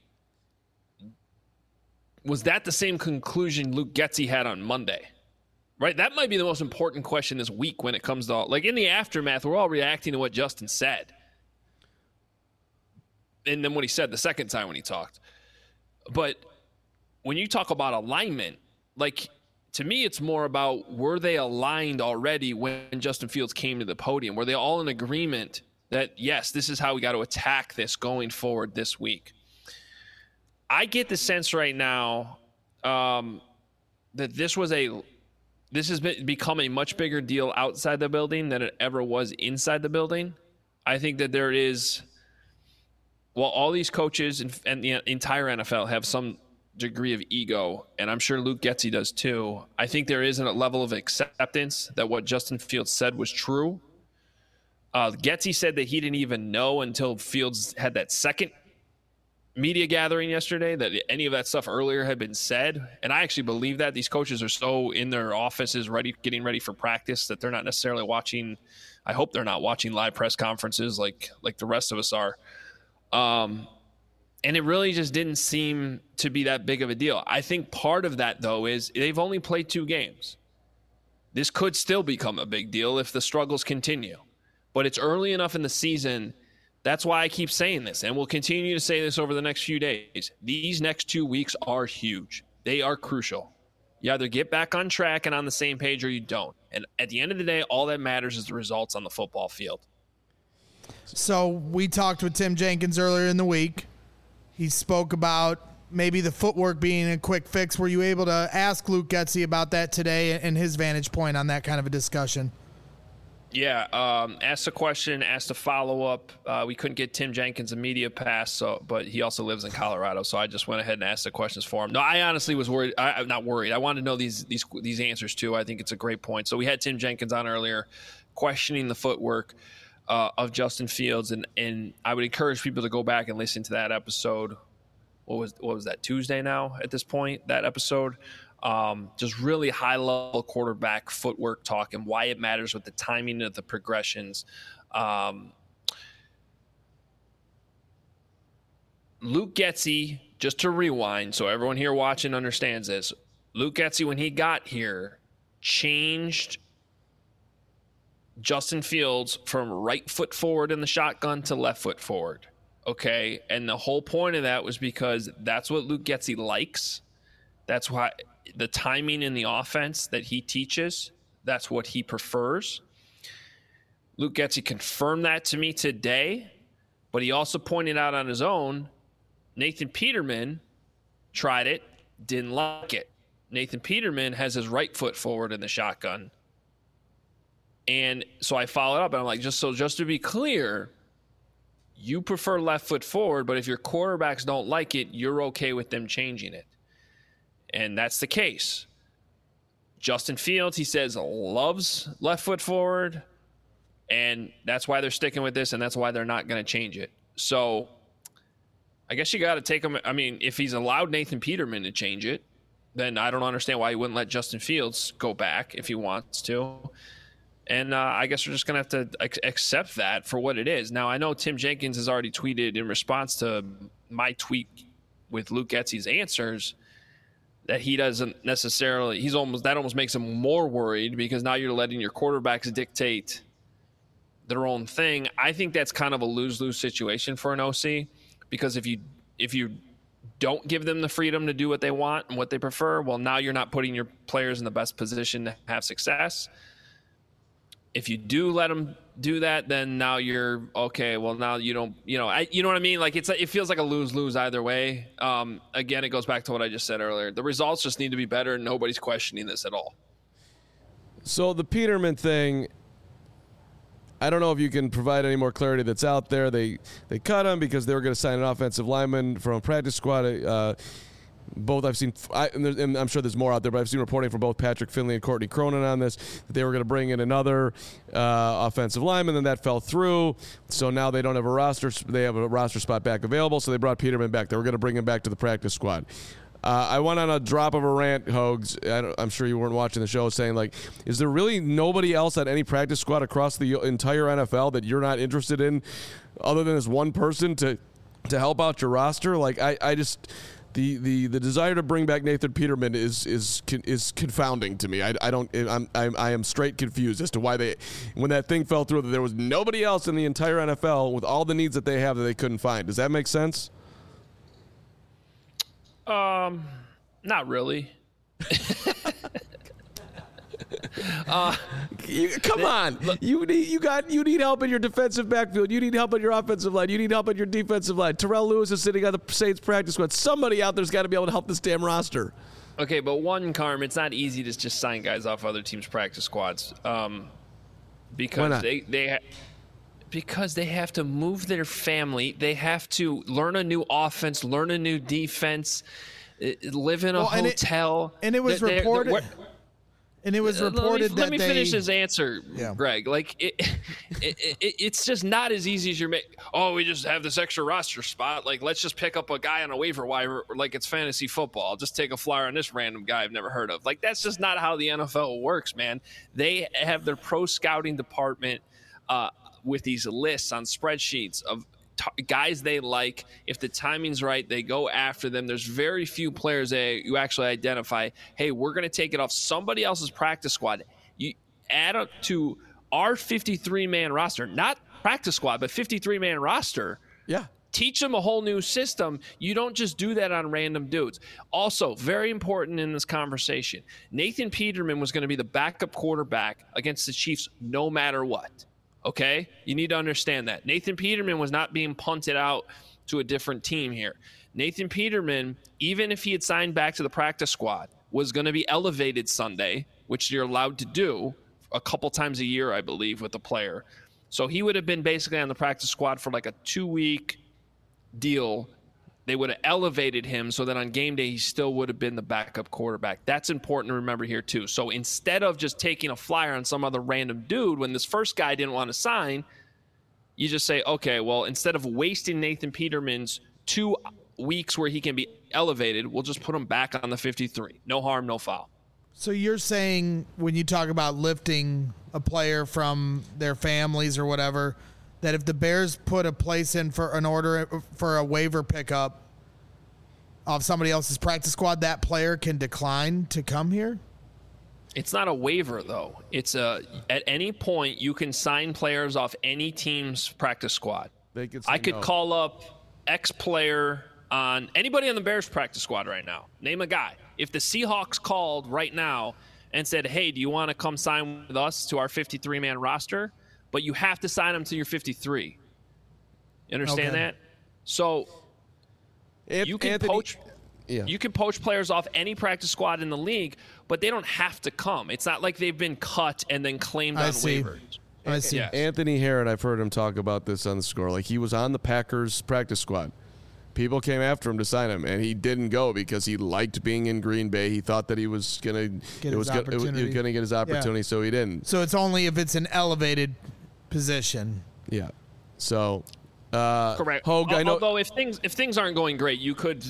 was that the same conclusion Luke Getsy had on Monday? Right? That might be the most important question this week when it comes to like in the aftermath, we're all reacting to what Justin said. And then what he said the second time when he talked. But when you talk about alignment, like to me, it's more about, were they aligned already when Justin Fields came to the podium? Were they all in agreement that, yes, this is how we got to attack this going forward this week? I get the sense right now that this has become a much bigger deal outside the building than it ever was inside the building. I think that there is, all these coaches and the entire NFL have some degree of ego, and I'm sure Luke Getsy does too. I think there is a level of acceptance that what Justin Fields said was true. Getsy said that he didn't even know until Fields had that second media gathering yesterday that any of that stuff earlier had been said. And I actually believe that these coaches are so in their offices getting ready for practice that they're not necessarily watching. I hope they're not watching live press conferences like the rest of us are. And it really just didn't seem to be that big of a deal. I think part of that, though, is they've only played 2 games. This could still become a big deal if the struggles continue. But it's early enough in the season. That's why I keep saying this, and we'll continue to say this over the next few days. These next 2 weeks are huge. They are crucial. You either get back on track and on the same page or you don't. And at the end of the day, all that matters is the results on the football field. So we talked with Tim Jenkins earlier in the week. He spoke about maybe the footwork being a quick fix. Were you able to ask Luke Getsy about that today and his vantage point on that kind of a discussion? Yeah, asked a question, asked a follow-up. We couldn't get Tim Jenkins a media pass, but he also lives in Colorado, so I just went ahead and asked the questions for him. No, I honestly was worried. I'm not worried. I wanted to know these answers, too. I think it's a great point. So we had Tim Jenkins on earlier questioning the footwork of Justin Fields, and I would encourage people to go back and listen to that episode. What was that, Tuesday now at this point, that episode? Just really high-level quarterback footwork talk and why it matters with the timing of the progressions. Luke Getsy, just to rewind so everyone here watching understands this, Luke Getsy, when he got here, changed Justin Fields from right foot forward in the shotgun to left foot forward. Okay? And the whole point of that was because that's what Luke Getsy likes. That's why the timing in the offense that he teaches, that's what he prefers. Luke Getsy confirmed that to me today, but he also pointed out on his own, Nathan Peterman tried it, didn't like it. Nathan Peterman has his right foot forward in the shotgun. And so I followed up, and I'm like, just to be clear, you prefer left foot forward, but if your quarterbacks don't like it, you're okay with them changing it. And that's the case. Justin Fields, he says, loves left foot forward, and that's why they're sticking with this, and that's why they're not going to change it. So I guess you got to take him. I mean, if he's allowed Nathan Peterman to change it, then I don't understand why he wouldn't let Justin Fields go back if he wants to. And I guess we're just going to have to accept that for what it is. Now, I know Tim Jenkins has already tweeted in response to my tweet with Luke Getsy's answers that he doesn't necessarily – that almost makes him more worried because now you're letting your quarterbacks dictate their own thing. I think that's kind of a lose-lose situation for an OC because if you don't give them the freedom to do what they want and what they prefer, well, now you're not putting your players in the best position to have success. If you do let them do that, then now you're okay. Well, now you don't, you know what I mean? Like it feels like a lose-lose either way. Again, it goes back to what I just said earlier. The results just need to be better, and nobody's questioning this at all. So the Peterman thing, I don't know if you can provide any more clarity that's out there. They cut him because they were going to sign an offensive lineman from a practice squad. Both I've seen, and I'm sure there's more out there, but I've seen reporting from both Patrick Finley and Courtney Cronin on this, that they were going to bring in another offensive lineman, and then that fell through. So now they don't have a roster. They have a roster spot back available, so they brought Peterman back. They were going to bring him back to the practice squad. I went on a drop of a rant, Hogs. I'm sure you weren't watching the show, saying, like, is there really nobody else at any practice squad across the entire NFL that you're not interested in other than this one person to help out your roster? Like, I just... The desire to bring back Nathan Peterman is confounding to me. I am straight confused as to why when that thing fell through, that there was nobody else in the entire NFL with all the needs that they have that they couldn't find. Does that make sense? Not really. Come on, you need help in your defensive backfield. You need help in your offensive line. You need help in your defensive line. Terrell Lewis is sitting on the Saints practice squad. Somebody out there's got to be able to help this damn roster. Okay, but Carm, it's not easy to just sign guys off other teams' practice squads because because they have to move their family. They have to learn a new offense, learn a new defense, live in a hotel. And it was reported. And it was reported let me finish his answer, Greg. Like it's just not as easy as you're making. Oh, we just have this extra roster spot. Like, let's just pick up a guy on a waiver wire like it's fantasy football. I'll just take a flyer on this random guy I've never heard of. Like, that's just not how the NFL works, man. They have their pro scouting department with these lists on spreadsheets of guys they like. If the timing's right, they go after them. There's very few players you actually identify, hey, we're going to take it off somebody else's practice squad. You add up to our 53-man roster, not practice squad, but 53-man roster. Yeah. Teach them a whole new system. You don't just do that on random dudes. Also, very important in this conversation, Nathan Peterman was going to be the backup quarterback against the Chiefs no matter what. Okay? You need to understand that. Nathan Peterman was not being punted out to a different team here. Nathan Peterman, even if he had signed back to the practice squad, was going to be elevated Sunday, which you're allowed to do a couple times a year, I believe, with the player. So he would have been basically on the practice squad for like a 2-week deal. They would have elevated him so that on game day he still would have been the backup quarterback. That's important to remember here too. So instead of just taking a flyer on some other random dude when this first guy didn't want to sign, you just say, okay, well, instead of wasting Nathan Peterman's 2 weeks where he can be elevated, we'll just put him back on the 53. No harm, no foul. So you're saying when you talk about lifting a player from their families or whatever, that if the Bears put a place in for an order for a waiver pickup of somebody else's practice squad, that player can decline to come here? It's not a waiver, though. It's at any point you can sign players off any team's practice squad. I could call up X player on anybody on the Bears practice squad right now. Name a guy. If the Seahawks called right now and said, hey, do you want to come sign with us to our 53-man roster? But you have to sign them to your 53. You understand that? So you can poach. Yeah. You can poach players off any practice squad in the league, but they don't have to come. It's not like they've been cut and then claimed on waivers. I see. Yes. Anthony Herron, I've heard him talk about this on the Score. Like, he was on the Packers practice squad. People came after him to sign him, and he didn't go because he liked being in Green Bay. He thought that he was going to get his opportunity, so he didn't. So it's only if it's an elevated position. Yeah. So Correct. Hogue, I know. Although if things aren't going great, you could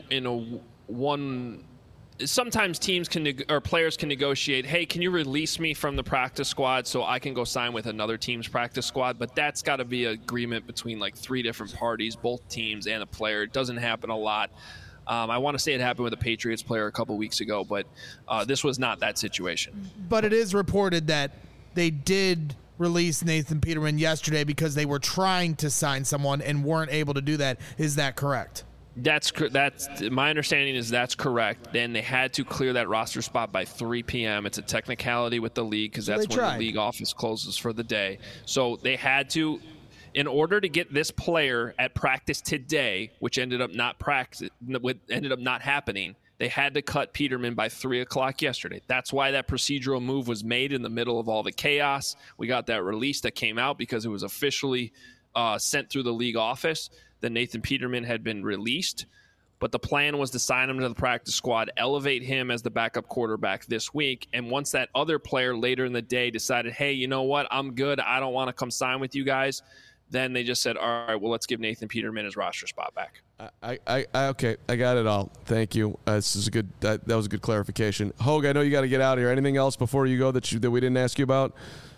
sometimes teams or players can negotiate, hey, can you release me from the practice squad so I can go sign with another team's practice squad? But that's got to be an agreement between like 3 different parties, both teams and a player. It doesn't happen a lot. I want to say it happened with a Patriots player a couple weeks ago, but this was not that situation. But it is reported that they did release Nathan Peterman yesterday because they were trying to sign someone and weren't able to do that. Is that correct? That's my understanding is that's correct. Then they had to clear that roster spot by 3 p.m. It's a technicality with the league because that's when the league office closes for the day. So they had to, in order to get this player at practice today, which ended up not happening. They had to cut Peterman by 3 o'clock yesterday. That's why that procedural move was made in the middle of all the chaos. We got that release that came out because it was officially sent through the league office that Nathan Peterman had been released. But the plan was to sign him to the practice squad, elevate him as the backup quarterback this week. And once that other player later in the day decided, hey, you know what, I'm good, I don't want to come sign with you guys, then they just said, all right, well, let's give Nathan Peterman his roster spot back. Okay, I got it all. Thank you. This is a good. That was a good clarification. Hogue, I know you got to get out of here. Anything else before you go that we didn't ask you about?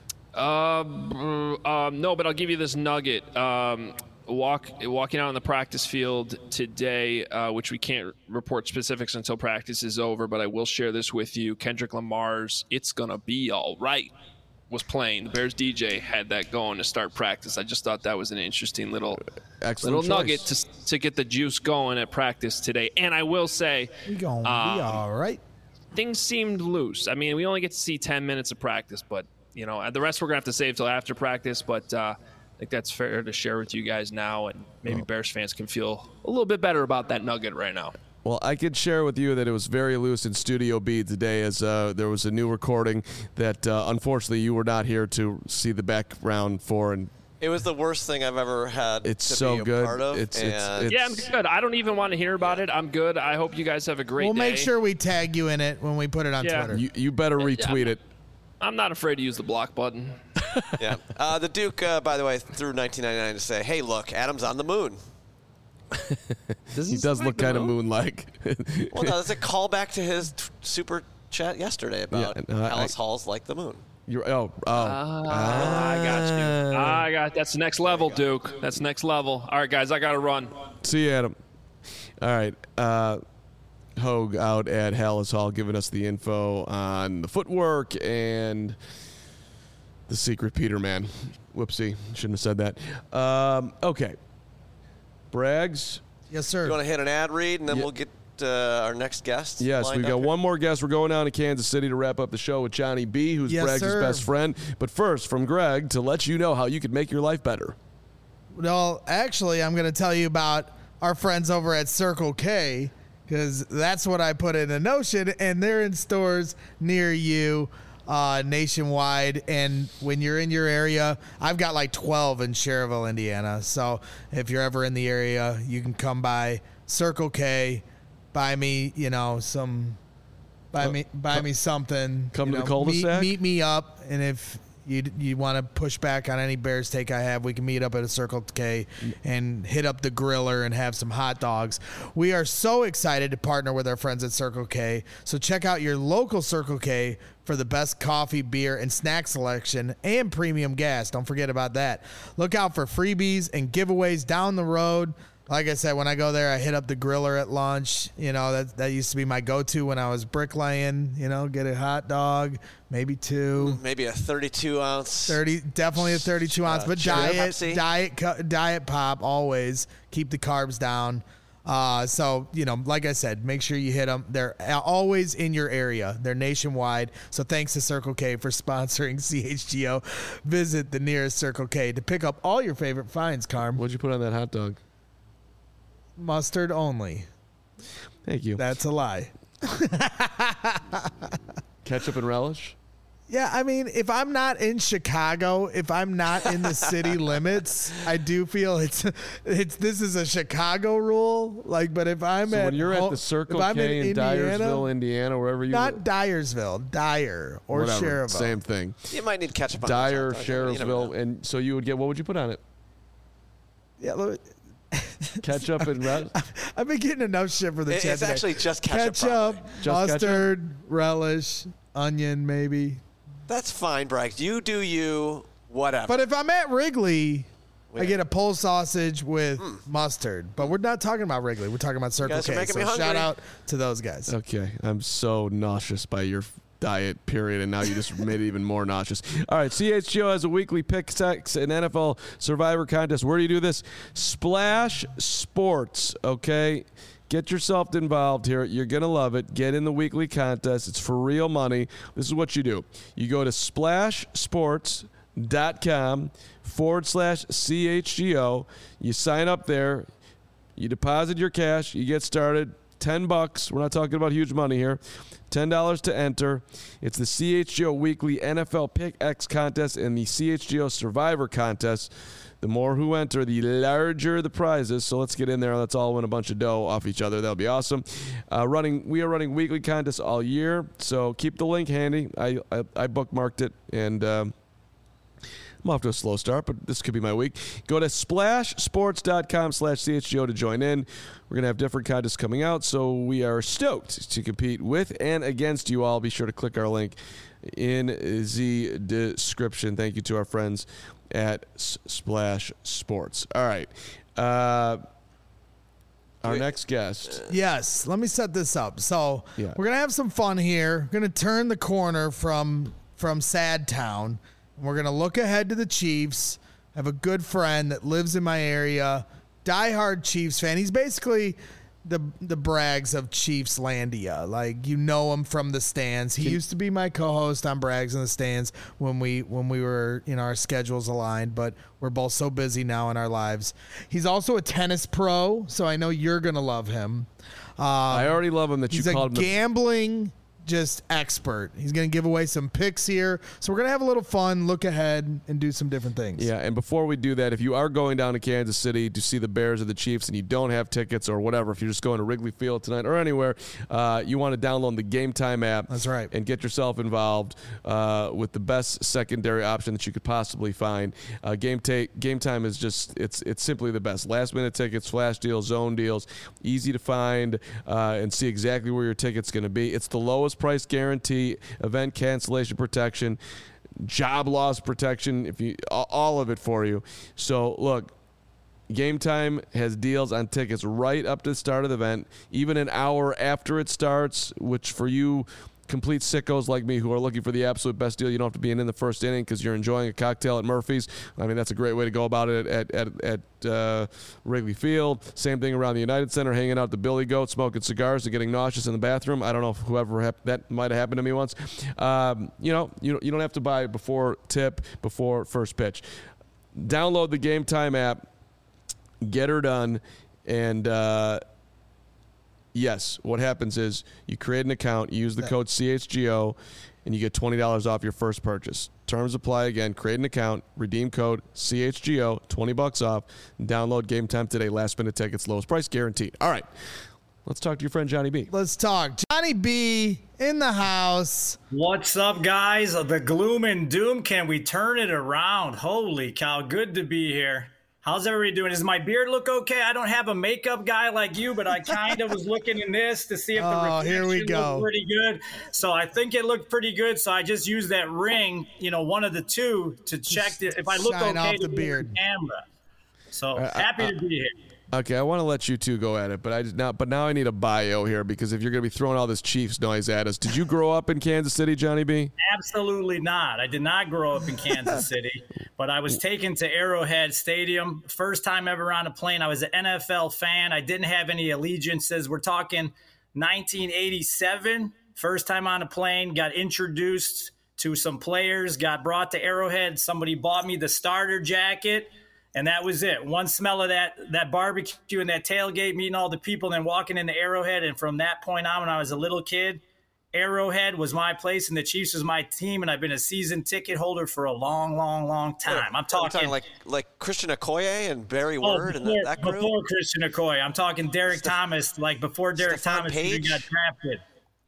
No, but I'll give you this nugget. Walking out on the practice field today, which we can't report specifics until practice is over, but I will share this with you. Kendrick Lamar's "It's Gonna Be All Right" was playing. The Bears DJ had that going to start practice. I just thought that was an interesting little nugget to get the juice going at practice today. And I will say, we gonna be all right. Things seemed loose. I mean, we only get to see 10 minutes of practice, but the rest we're gonna have to save till after practice. But I think that's fair to share with you guys now, and maybe Bears fans can feel a little bit better about that nugget right now. Well, I could share with you that it was very loose in Studio B today, as there was a new recording that unfortunately you were not here to see the background for. And it was the worst thing I've ever had. It's to so be a good. Part of, yeah, I'm good. I don't even want to hear about it. I'm good. I hope you guys have a great day. We'll make sure we tag you in it when we put it on Twitter. You better retweet it. I'm not afraid to use the block button. Yeah. The Duke, by the way, threw 1999 to say, hey, look, Adam's on the moon. He does look kind of moon-like. Well, no, that's a callback to his super chat yesterday about Alice Hall's like the moon. I got you. That's next level, Duke. That's next level. All right, guys, I got to run. See you, Adam. All right. Hogue out at Hallis Hall giving us the info on the footwork and the secret Peterman. Whoopsie. Shouldn't have said that. Okay. Braggs. Yes, sir. You want to hit an ad read, and then we'll get our next guest? Yes, we got one more guest. We're going down to Kansas City to wrap up the show with Johnny B., who's Braggs' best friend. But first, from Greg, to let you know how you could make your life better. Well, actually, I'm going to tell you about our friends over at Circle K, because that's what I put in a Notion, and they're in stores near you. Nationwide, and when you're in your area, I've got like 12 in Cherville, Indiana. So if you're ever in the area, you can come by Circle K, buy me, buy me something. Come to the cul-de-sac. Meet me up, and if you want to push back on any Bears take I have, we can meet up at a Circle K and hit up the griller and have some hot dogs. We are so excited to partner with our friends at Circle K. So check out your local Circle K for the best coffee, beer, and snack selection and premium gas. Don't forget about that. Look out for freebies and giveaways down the road. Like I said, when I go there, I hit up the griller at lunch. That used to be my go-to when I was bricklaying. Get a hot dog, maybe 2. Maybe a 32-ounce. Definitely a 32-ounce, but diet pop always. Keep the carbs down. So, like I said, make sure you hit them. They're always in your area. They're nationwide. So thanks to Circle K for sponsoring CHGO. Visit the nearest Circle K to pick up all your favorite finds, Carm. What'd you put on that hot dog? Mustard only. Thank you. That's a lie. Ketchup and relish? Yeah, I mean, if I'm not in Chicago, if I'm not in the city limits, I do feel this is a Chicago rule. But if I'm when you're at the Circle K in Dyersville, Indiana, wherever you not Dyersville, Dyer or Cherville, same thing. You might need ketchup on Dyer, Cherville, and so you would get. What would you put on it? Yeah, ketchup and relish. I've been getting enough shit for the chat. It's today. actually just ketchup. Ketchup, Just mustard, relish, onion, maybe. That's fine, Bragg. You do you. Whatever. But if I'm at Wrigley, I get a pole sausage with mustard. But we're not talking about Wrigley. We're talking about Circle guys are K. making So me hungry. shout out to those guys. Okay, I'm so nauseous by your diet, period, and now you just made it even more nauseous. All right, CHGO has a weekly pick six and NFL Survivor contest. Where do you do this? Splash Sports, okay? Get yourself involved here. You're going to love it. Get in the weekly contest. It's for real money. This is what you do. You go to splashsports.com/CHGO. You sign up there. You deposit your cash. You get started. $10. We're not talking about huge money here. $10 to enter. It's the CHGO Weekly NFL Pick X contest and the CHGO Survivor contest. The more who enter, the larger the prizes. So let's get in there. Let's all win a bunch of dough off each other. That'll be awesome. We are running weekly contests all year. So keep the link handy. I bookmarked it, and I'm off to a slow start, but this could be my week. Go to splashsports.com/CHGO to join in. We're going to have different contests coming out, so we are stoked to compete with and against you all. Be sure to click our link in the description. Thank you to our friends at Splash Sports. All right. Our next guest. Yes, let me set this up. So Yeah. we're going to have some fun here. We're going to turn the corner from Sad Town. We're going to look ahead to the Chiefs. I have a good friend that lives in my area, diehard Chiefs fan. He's basically the Braggs of Chiefs Landia. Like, you know him from the stands. He used to be my co-host on Braggs in the Stands when we were, our schedules aligned, but we're both so busy now in our lives. He's also a tennis pro, so I know you're going to love him. I already love him that you called him. He's a gambling just expert. He's going to give away some picks here. So we're going to have a little fun, look ahead, and do some different things. Yeah, and before we do that, if you are going down to Kansas City to see the Bears or the Chiefs and you don't have tickets or whatever, if you're just going to Wrigley Field tonight or anywhere, you want to download the Game Time app. That's right. And get yourself involved with the best secondary option that you could possibly find. Game Time is just, it's simply the best. Last-minute tickets, flash deals, zone deals, easy to find and see exactly where your ticket's going to be. It's the lowest price guarantee, event cancellation protection, job loss protection, all of it for you. So look, Game Time has deals on tickets right up to the start of the event, even an hour after it starts, which for you complete sickos like me who are looking for the absolute best deal, you don't have to be in the first inning because you're enjoying a cocktail at Murphy's. I mean, that's a great way to go about it at Wrigley Field. Same thing around the United Center, hanging out at the Billy Goat, smoking cigars and getting nauseous in the bathroom. I don't know if that might have happened to me once. You don't have to buy before tip, before first pitch. Download the Game Time app, get her done, and yes, what happens is you create an account, you use the code CHGO, and you get $20 off your first purchase. Terms apply again. Create an account, redeem code CHGO, $20 off, and download Game Time today. Last minute tickets, lowest price guaranteed. All right, let's talk to your friend Johnny B. Let's talk. Johnny B in the house. What's up, guys? The gloom and doom. Can we turn it around? Holy cow, good to be here. How's everybody doing? Does my beard look okay? I don't have a makeup guy like you, but I kind of was looking in this to see if the reflection looked pretty good. So I think it looked pretty good. So I just used that ring, one of the two, to check if I look okay off the to beard. the camera. So happy to be here. Okay, I want to let you two go at it, but now I need a bio here because if you're going to be throwing all this Chiefs noise at us, did you grow up in Kansas City, Johnny B? Absolutely not. I did not grow up in Kansas City, but I was taken to Arrowhead Stadium. First time ever on a plane. I was an NFL fan. I didn't have any allegiances. We're talking 1987. First time on a plane, got introduced to some players, got brought to Arrowhead. Somebody bought me the starter jacket. And that was it. One smell of that barbecue and that tailgate, meeting all the people, and then walking into Arrowhead. And from that point on, when I was a little kid, Arrowhead was my place and the Chiefs was my team. And I've been a season ticket holder for a long, long, long time. I'm talking like Christian Okoye and Barry Word and that group? Before Christian Okoye. I'm talking Derek Thomas, like before Derek Stephon Thomas Page? got drafted.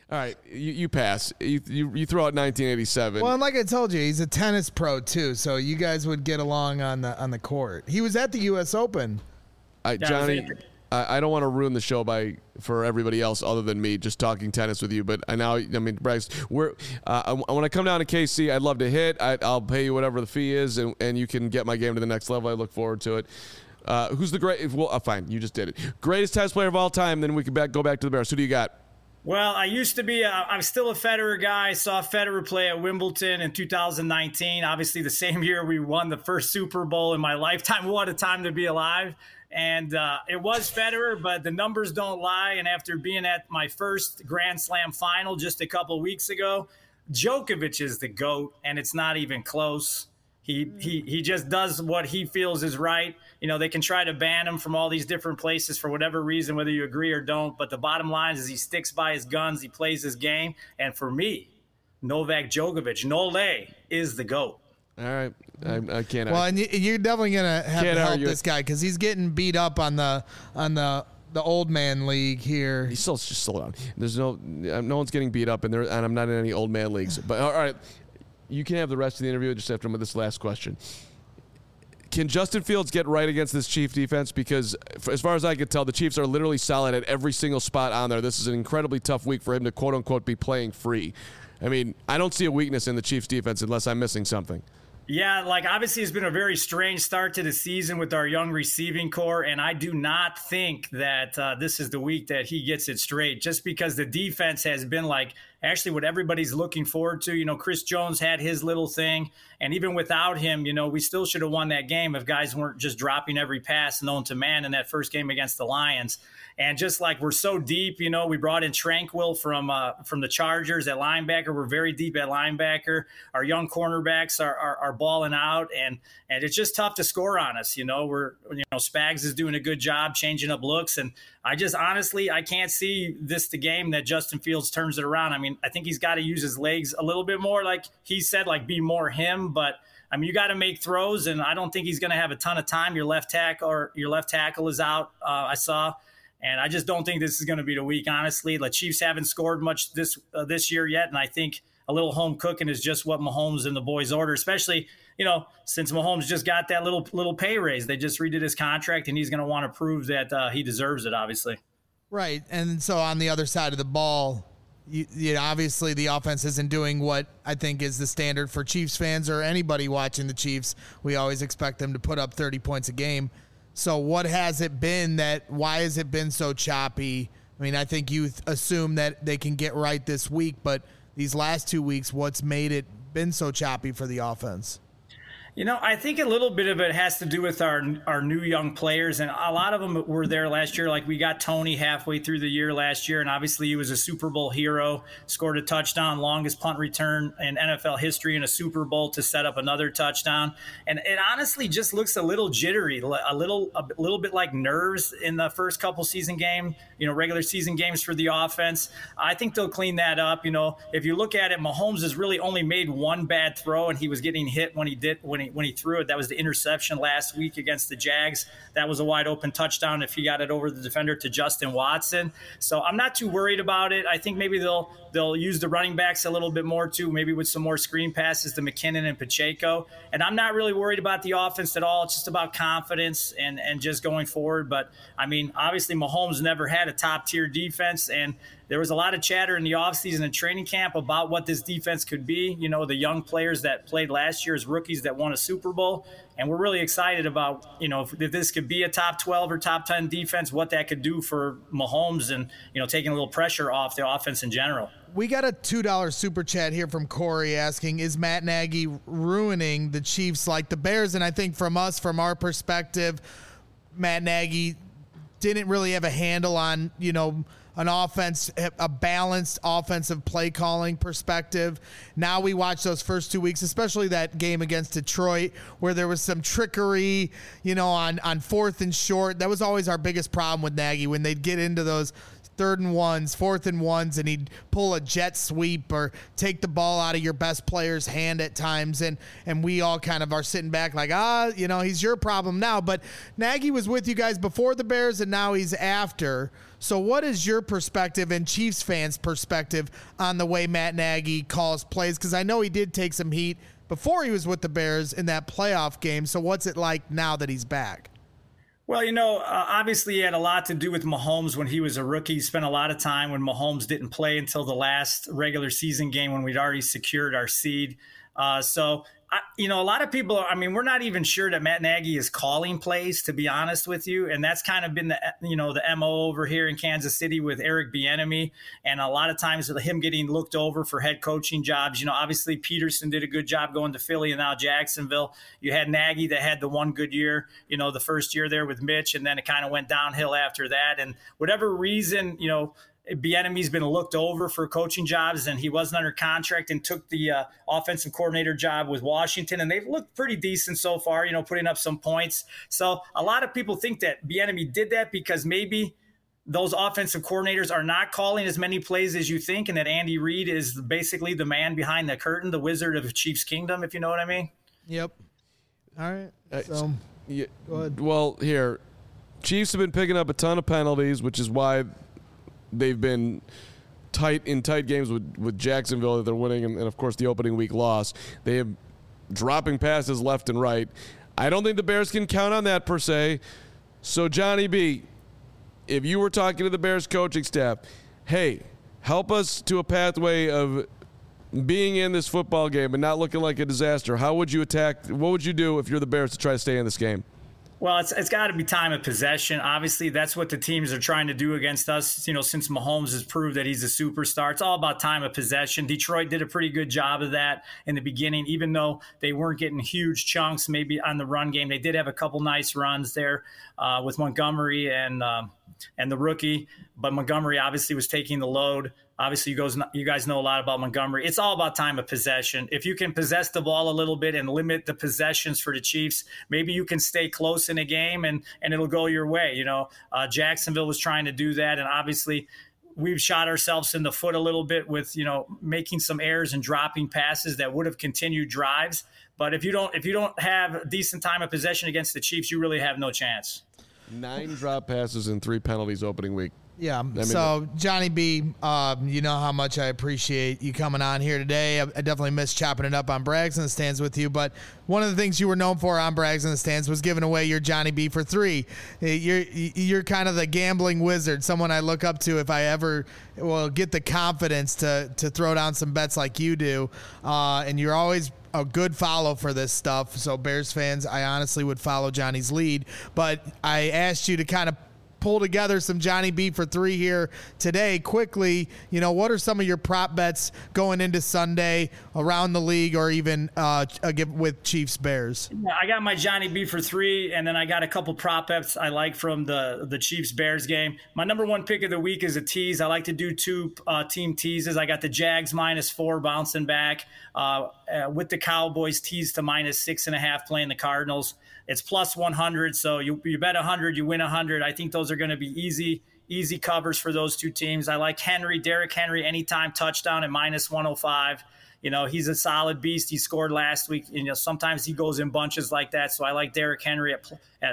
All right, you pass. You throw out 1987. Well, and like I told you, he's a tennis pro too, so you guys would get along on the court. He was at the U.S. Open. Johnny, I don't want to ruin the show for everybody else other than me just talking tennis with you. But Bryce, when I come down to KC, I'd love to hit. I'll pay you whatever the fee is, and you can get my game to the next level. I look forward to it. Who's the great? Well, fine, you just did it. Greatest tennis player of all time. Then we can go back to the Bears. Who do you got? Well, I used to be I'm still a Federer guy. I saw Federer play at Wimbledon in 2019. Obviously, the same year we won the first Super Bowl in my lifetime. What a time to be alive. And it was Federer, but the numbers don't lie. And after being at my first Grand Slam final just a couple of weeks ago, Djokovic is the GOAT, and it's not even close. He just does what he feels is right. They can try to ban him from all these different places for whatever reason, whether you agree or don't. But the bottom line is he sticks by his guns. He plays his game. And for me, Novak Djokovic, Nole, is the GOAT. All right. I can't. Well, and you're definitely going to have to help this guy because he's getting beat up on the old man league here. He's still just slow down. There's no one's getting beat up, and I'm not in any old man leagues. But all right. You can have the rest of the interview just after this last question. Can Justin Fields get right against this Chief defense? Because as far as I can tell, the Chiefs are literally solid at every single spot on there. This is an incredibly tough week for him to, quote-unquote, be playing free. I mean, I don't see a weakness in the Chiefs defense unless I'm missing something. Yeah, obviously it's been a very strange start to the season with our young receiving core, and I do not think that this is the week that he gets it straight, just because the defense has been actually what everybody's looking forward to. Chris Jones had his little thing, and even without him, we still should have won that game if guys weren't just dropping every pass known to man in that first game against the Lions. And just we're so deep, we brought in Tranquil from the Chargers at linebacker. We're very deep at linebacker. Our young cornerbacks are balling out, and it's just tough to score on us. Spags is doing a good job changing up looks, and I just honestly I can't see the game that Justin Fields turns it around. I mean, I think he's got to use his legs a little bit more, like he said, be more him, but. I mean, you got to make throws, and I don't think he's going to have a ton of time. Your left tackle is out. I saw. And I just don't think this is going to be the week, honestly. The Chiefs haven't scored much this year yet, and I think a little home cooking is just what Mahomes and the boys order, especially, since Mahomes just got that little pay raise. They just redid his contract, and he's going to want to prove that he deserves it, obviously. Right, and so on the other side of the ball, obviously the offense isn't doing what I think is the standard for Chiefs fans or anybody watching the Chiefs. We always expect them to put up 30 points a game. So why has it been so choppy? I mean, I think you assume that they can get right this week, but these last 2 weeks, what's made it been so choppy for the offense? I think a little bit of it has to do with our new young players, and a lot of them were there last year. We got Tony halfway through the year last year, and obviously he was a Super Bowl hero, scored a touchdown, longest punt return in NFL history in a Super Bowl to set up another touchdown. And it honestly just looks a little jittery, a little bit like nerves in the first couple season game, regular season games for the offense. I think they'll clean that up. If you look at it, Mahomes has really only made one bad throw, and he was getting hit when he threw it. That was the interception last week against the Jags. That was a wide open touchdown if he got it over the defender to Justin Watson. So I'm not too worried about it. I think maybe they'll use the running backs a little bit more too, maybe with some more screen passes to McKinnon and Pacheco. And I'm not really worried about the offense at all. It's just about confidence and just going forward. But I mean, obviously Mahomes never had a top tier defense, and there was a lot of chatter in the offseason and training camp about what this defense could be. The young players that played last year as rookies that won a Super Bowl. And we're really excited about, if this could be a top 12 or top 10 defense, what that could do for Mahomes and, taking a little pressure off the offense in general. We got a $2 super chat here from Corey asking, is Matt Nagy ruining the Chiefs like the Bears? And I think from our perspective, Matt Nagy didn't really have a handle on, an offense, a balanced offensive play calling perspective. Now we watch those first 2 weeks, especially that game against Detroit, where there was some trickery, on 4th and short. That was always our biggest problem with Nagy, when they'd get into those 3rd and 1s, 4th and 1s, and he'd pull a jet sweep or take the ball out of your best player's hand at times. And we all kind of are sitting back like, he's your problem now. But Nagy was with you guys before the Bears, and now he's after. So what is your perspective and Chiefs fans' perspective on the way Matt Nagy calls plays? Because I know he did take some heat before he was with the Bears in that playoff game. So what's it like now that he's back? Well, obviously he had a lot to do with Mahomes when he was a rookie. He spent a lot of time when Mahomes didn't play until the last regular season game when we'd already secured our seed. A lot of people, we're not even sure that Matt Nagy is calling plays, to be honest with you. And that's kind of been the MO over here in Kansas City with Eric Bieniemy. And a lot of times with him getting looked over for head coaching jobs, obviously Peterson did a good job going to Philly and now Jacksonville. You had Nagy that had the one good year, the first year there with Mitch, and then it kind of went downhill after that. And whatever reason, Bieniemy's been looked over for coaching jobs, and he wasn't under contract and took the offensive coordinator job with Washington, and they've looked pretty decent so far, putting up some points. So a lot of people think that Bieniemy did that because maybe those offensive coordinators are not calling as many plays as you think, and that Andy Reid is basically the man behind the curtain, the wizard of Chiefs Kingdom, if you know what I mean. Yep. All right. So go ahead. Well, here, Chiefs have been picking up a ton of penalties, which is why they've been tight games with Jacksonville that they're winning, and of course the opening week loss. They have dropping passes left and right. I don't think the Bears can count on that per se. So Johnny B, if you were talking to the Bears coaching staff, hey, help us to a pathway of being in this football game and not looking like a disaster, how would you attack? What would you do if you're the Bears to try to stay in this game? Well, it's got to be time of possession. Obviously, that's what the teams are trying to do against us. Since Mahomes has proved that he's a superstar, it's all about time of possession. Detroit did a pretty good job of that in the beginning, even though they weren't getting huge chunks maybe on the run game. They did have a couple nice runs there with Montgomery and the rookie, but Montgomery obviously was taking the load. Obviously, you guys know a lot about Montgomery. It's all about time of possession. If you can possess the ball a little bit and limit the possessions for the Chiefs, maybe you can stay close in a game and it'll go your way. Jacksonville was trying to do that, and obviously we've shot ourselves in the foot a little bit with making some errors and dropping passes that would have continued drives. But if you don't have decent time of possession against the Chiefs, you really have no chance. 9 drop passes and 3 penalties opening week. Yeah. So, Johnny B, you know how much I appreciate you coming on here today. I definitely miss chopping it up on Brags in the Stands with you. But one of the things you were known for on Brags in the Stands was giving away your Johnny B for 3. You're kind of the gambling wizard, someone I look up to if I ever will get the confidence to throw down some bets like you do. And you're always a good follow for this stuff. So, Bears fans, I honestly would follow Johnny's lead. But I asked you to kind of pull together some Johnny B for 3 here today quickly. What are some of your prop bets going into Sunday around the league or even with Chiefs Bears? Yeah, I got my Johnny B for 3, and then I got a couple prop bets I like from the Chiefs Bears game. My number 1 pick of the week is a tease. I like to do 2 team teases. I got the Jags -4 bouncing back with the Cowboys teased to -6.5 playing the Cardinals. It's +100, so you bet 100, you win 100. I think those are going to be easy covers for those 2 teams. I like Derrick Henry, anytime touchdown at -105. He's a solid beast. He scored last week. Sometimes he goes in bunches like that. So I like Derrick Henry at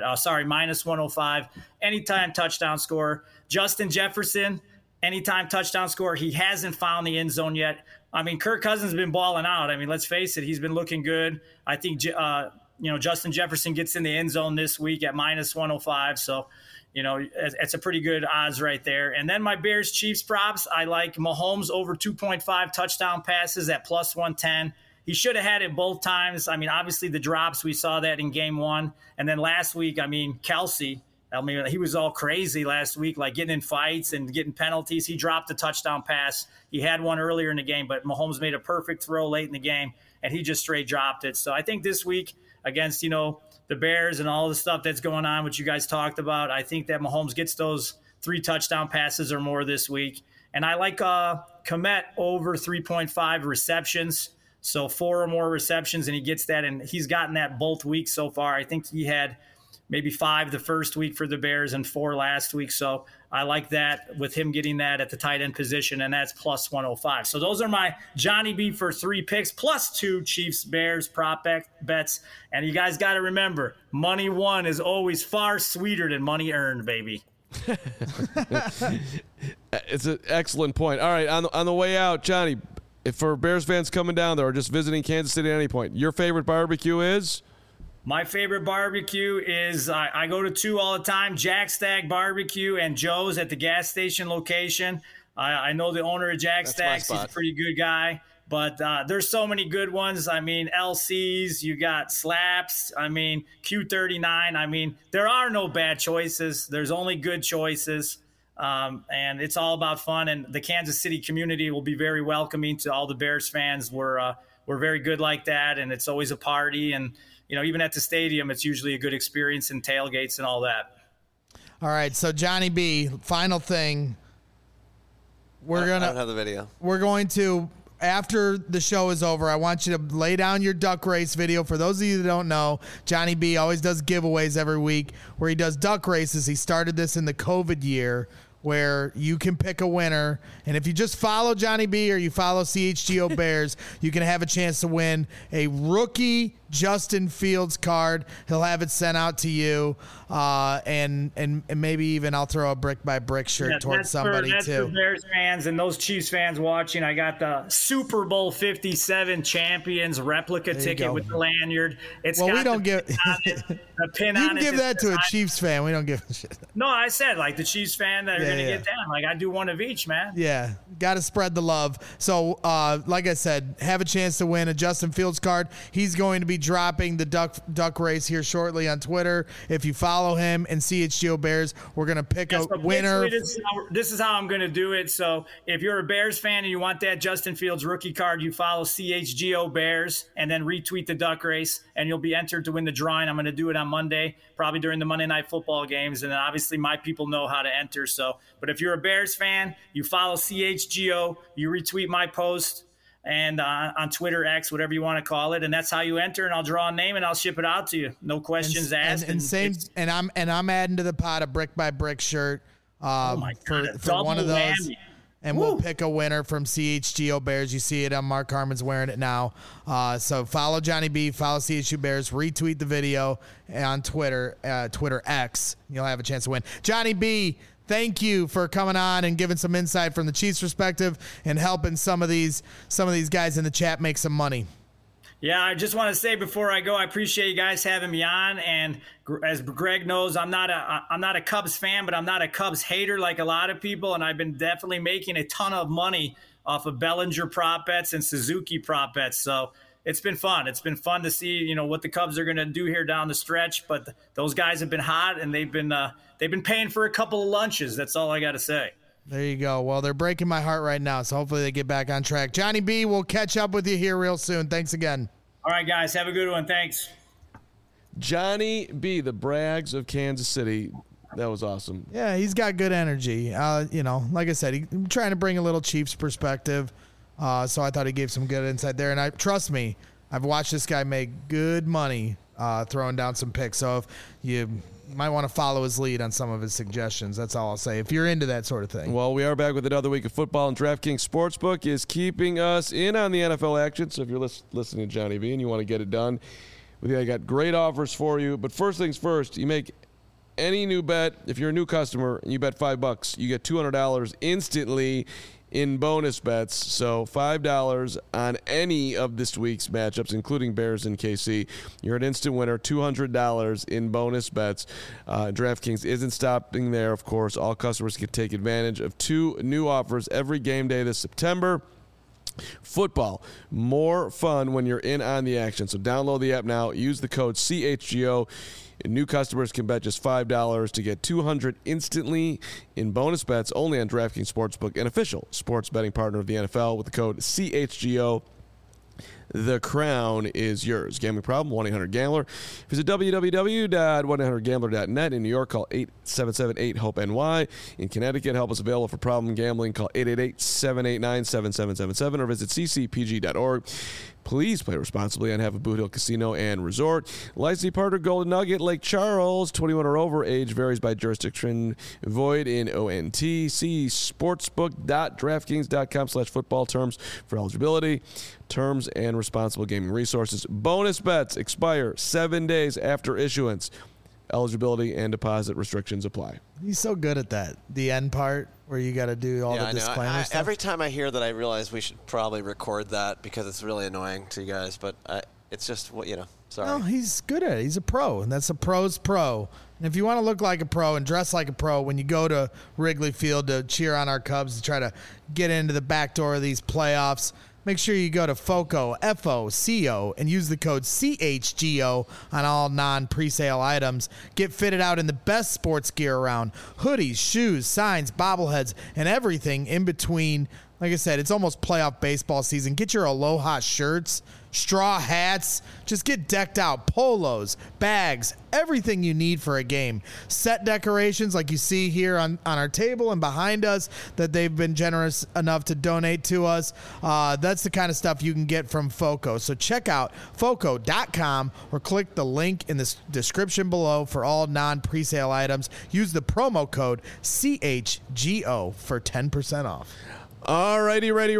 -105, anytime touchdown scorer. Justin Jefferson, anytime touchdown scorer. He hasn't found the end zone yet. Kirk Cousins has been balling out. Let's face it, he's been looking good. I think Justin Jefferson gets in the end zone this week at -105. So, it's a pretty good odds right there. And then my Bears Chiefs props, I like Mahomes over 2.5 touchdown passes at +110. He should have had it both times. Obviously the drops, we saw that in game 1. And then last week, Kelsey, he was all crazy last week, like getting in fights and getting penalties. He dropped a touchdown pass. He had one earlier in the game, but Mahomes made a perfect throw late in the game, and he just straight dropped it. So I think this week against, the Bears and all the stuff that's going on, which you guys talked about, I think that Mahomes gets those 3 touchdown passes or more this week. And I like Kmet over 3.5 receptions. So 4 or more receptions, and he gets that, and he's gotten that both weeks so far. I think he had maybe 5 the first week for the Bears and 4 last week. So I like that with him getting that at the tight end position, and that's plus 105. So those are my Johnny B for 3 picks, plus 2 Chiefs-Bears prop bets. And you guys got to remember, money won is always far sweeter than money earned, baby. It's an excellent point. All right, on the way out, Johnny, if for Bears fans coming down there or just visiting Kansas City at any point, your favorite barbecue is? My favorite barbecue is I go to 2 all the time, Jack Stack Barbecue and Joe's at the gas station location. I know the owner of Jack Stack's. He's a pretty good guy. But there's so many good ones. I mean, LC's, you got Slaps, I mean, Q39. I mean, there are no bad choices. There's only good choices. And it's all about fun. And the Kansas City community will be very welcoming to all the Bears fans. We're very good like that, and it's always a party. And, you know, even at the stadium, it's usually a good experience and tailgates and all that. All right, so Johnny B, final thing. I don't have the video. We're going to, after the show is over, I want you to lay down your duck race video. For those of you that don't know, Johnny B always does giveaways every week where he does duck races. He started this in the COVID year where you can pick a winner. And if you just follow Johnny B or you follow CHGO Bears, you can have a chance to win a rookie Justin Fields card. He'll have it sent out to you. And maybe even I'll throw a brick by brick shirt towards somebody that's too. For Bears fans and those Chiefs fans watching, I got the Super Bowl 57 champions replica ticket with the lanyard. We don't give the pin on it. You can give that to a Chiefs fan. We don't give a shit. No, I said like the Chiefs fan that are going to get down. Like I do one of each, man. Yeah, got to spread the love. So, like I said, have a chance to win a Justin Fields card. He's going to be dropping the duck race here shortly on Twitter. If you follow him and CHGO Bears, we're going to pick a winner. This is how I'm going to do it. So if you're a Bears fan and you want that Justin Fields rookie card, you follow CHGO Bears and then retweet the duck race, and you'll be entered to win the drawing. I'm going to do it on Monday, probably during the Monday Night Football games, and then obviously my people know how to enter. So, but if you're a Bears fan, you follow CHGO, you retweet my post, and on Twitter, X, whatever you want to call it, and that's how you enter. And I'll draw a name and I'll ship it out to you. No questions asked. And I'm adding to the pot a brick by brick shirt for one of those. Whammy. And we'll pick a winner from CHGO Bears. You see it on Mark Harmon's wearing it now. So follow Johnny B, follow CHGO Bears, retweet the video on Twitter, Twitter X. You'll have a chance to win. Johnny B, thank you for coming on and giving some insight from the Chiefs' perspective and helping some of these guys in the chat make some money. Yeah, I just want to say before I go, I appreciate you guys having me on. And as Greg knows, I'm not a Cubs fan, but I'm not a Cubs hater like a lot of people. And I've been definitely making a ton of money off of Bellinger prop bets and Suzuki prop bets. So it's been fun. It's been fun to see, you know, what the Cubs are going to do here down the stretch. But those guys have been hot, and they've been paying for a couple of lunches. That's all I got to say. There you go. Well, they're breaking my heart right now, so hopefully they get back on track. Johnny B, we'll catch up with you here real soon. Thanks again. All right, guys. Have a good one. Thanks. Johnny B, the Brags of Kansas City. That was awesome. Yeah, he's got good energy. You know, like I said, he's trying to bring a little Chiefs perspective. So I thought he gave some good insight there. And trust me, I've watched this guy make good money throwing down some picks. So if you might want to follow his lead on some of his suggestions. That's all I'll say, if you're into that sort of thing. Well, we are back with another week of football, and DraftKings Sportsbook is keeping us in on the NFL action. So if you're listening to Johnny B and you want to get it done, I got great offers for you. But first things first, you make any new bet. If you're a new customer and you bet $5, you get $200 instantly in bonus bets. So $5 on any of this week's matchups, including Bears and KC. You're an instant winner, $200 in bonus bets. DraftKings isn't stopping there, of course. All customers can take advantage of 2 new offers every game day this September. Football, more fun when you're in on the action. So download the app now. Use the code CHGO. New customers can bet just $5 to get $200 instantly in bonus bets only on DraftKings Sportsbook, an official sports betting partner of the NFL, with the code CHGO. the crown is yours. Gambling problem? 1-800-GAMBLER. Visit www.1800gambler.net. In New York, call 877-8-HOPE-NY. In Connecticut, help is available for problem gambling. Call 888-789-7777 or visit ccpg.org. Please play responsibly and have a Boot Hill Casino and Resort. Licensee partner Golden Nugget, Lake Charles, 21 or over. Age varies by jurisdiction. Void in ONT. See sportsbook.draftkings.com/football terms for eligibility. Terms and responsible gaming resources. Bonus bets expire 7 days after issuance. Eligibility and deposit restrictions apply. He's so good at that. The end part where you got to do all the disclaimer stuff. Every time I hear that, I realize we should probably record that because it's really annoying to you guys. But it's just sorry. No, he's good at it. He's a pro, and that's a pro's pro. And if you want to look like a pro and dress like a pro when you go to Wrigley Field to cheer on our Cubs to try to get into the back door of these playoffs, make sure you go to FOCO, F-O-C-O, and use the code CHGO on all non-presale items. Get fitted out in the best sports gear around. Hoodies, shoes, signs, bobbleheads, and everything in between. Like I said, it's almost playoff baseball season. Get your Aloha shirts, straw hats. Just get decked out. Polos, bags, everything you need for a game. Set decorations like you see here on our table and behind us that they've been generous enough to donate to us. That's the kind of stuff you can get from FOCO. So check out FOCO.com or click the link in the description below for all non-presale items. Use the promo code CHGO for 10% off. All righty, right.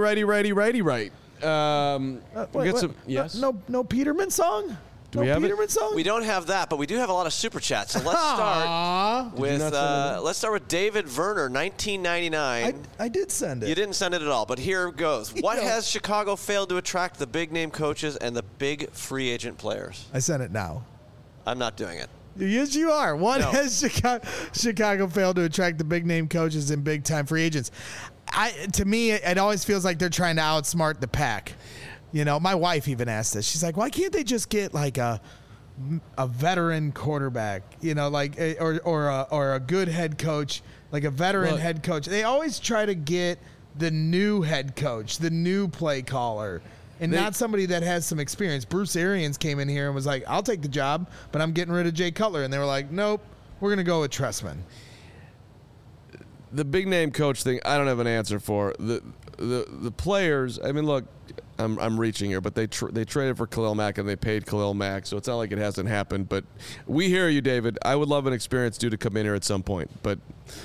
Yes. No Peterman song? Do we have Peterman song? We don't have that, but we do have a lot of super chats. So let's start with David Werner, 1999. I did send it. You didn't send it at all, but here goes. What has Chicago failed to attract the big name coaches and the big free agent players? I sent it now. I'm not doing it. Yes, you are. What has Chicago failed to attract the big name coaches and big time free agents? To me, it always feels like they're trying to outsmart the pack. My wife even asked this. She's like, why can't they just get like a veteran quarterback, or a good head coach, like a veteran head coach? They always try to get the new head coach, the new play caller, and not somebody that has some experience. Bruce Arians came in here and was like, I'll take the job, but I'm getting rid of Jay Cutler. And they were like, nope, we're going to go with Trestman. The big name coach thing, I don't have an answer for. The players, I mean, look, I'm reaching here, but they traded for Khalil Mack and they paid Khalil Mack, so it's not like it hasn't happened. But we hear you, David. I would love an experienced dude to come in here at some point, but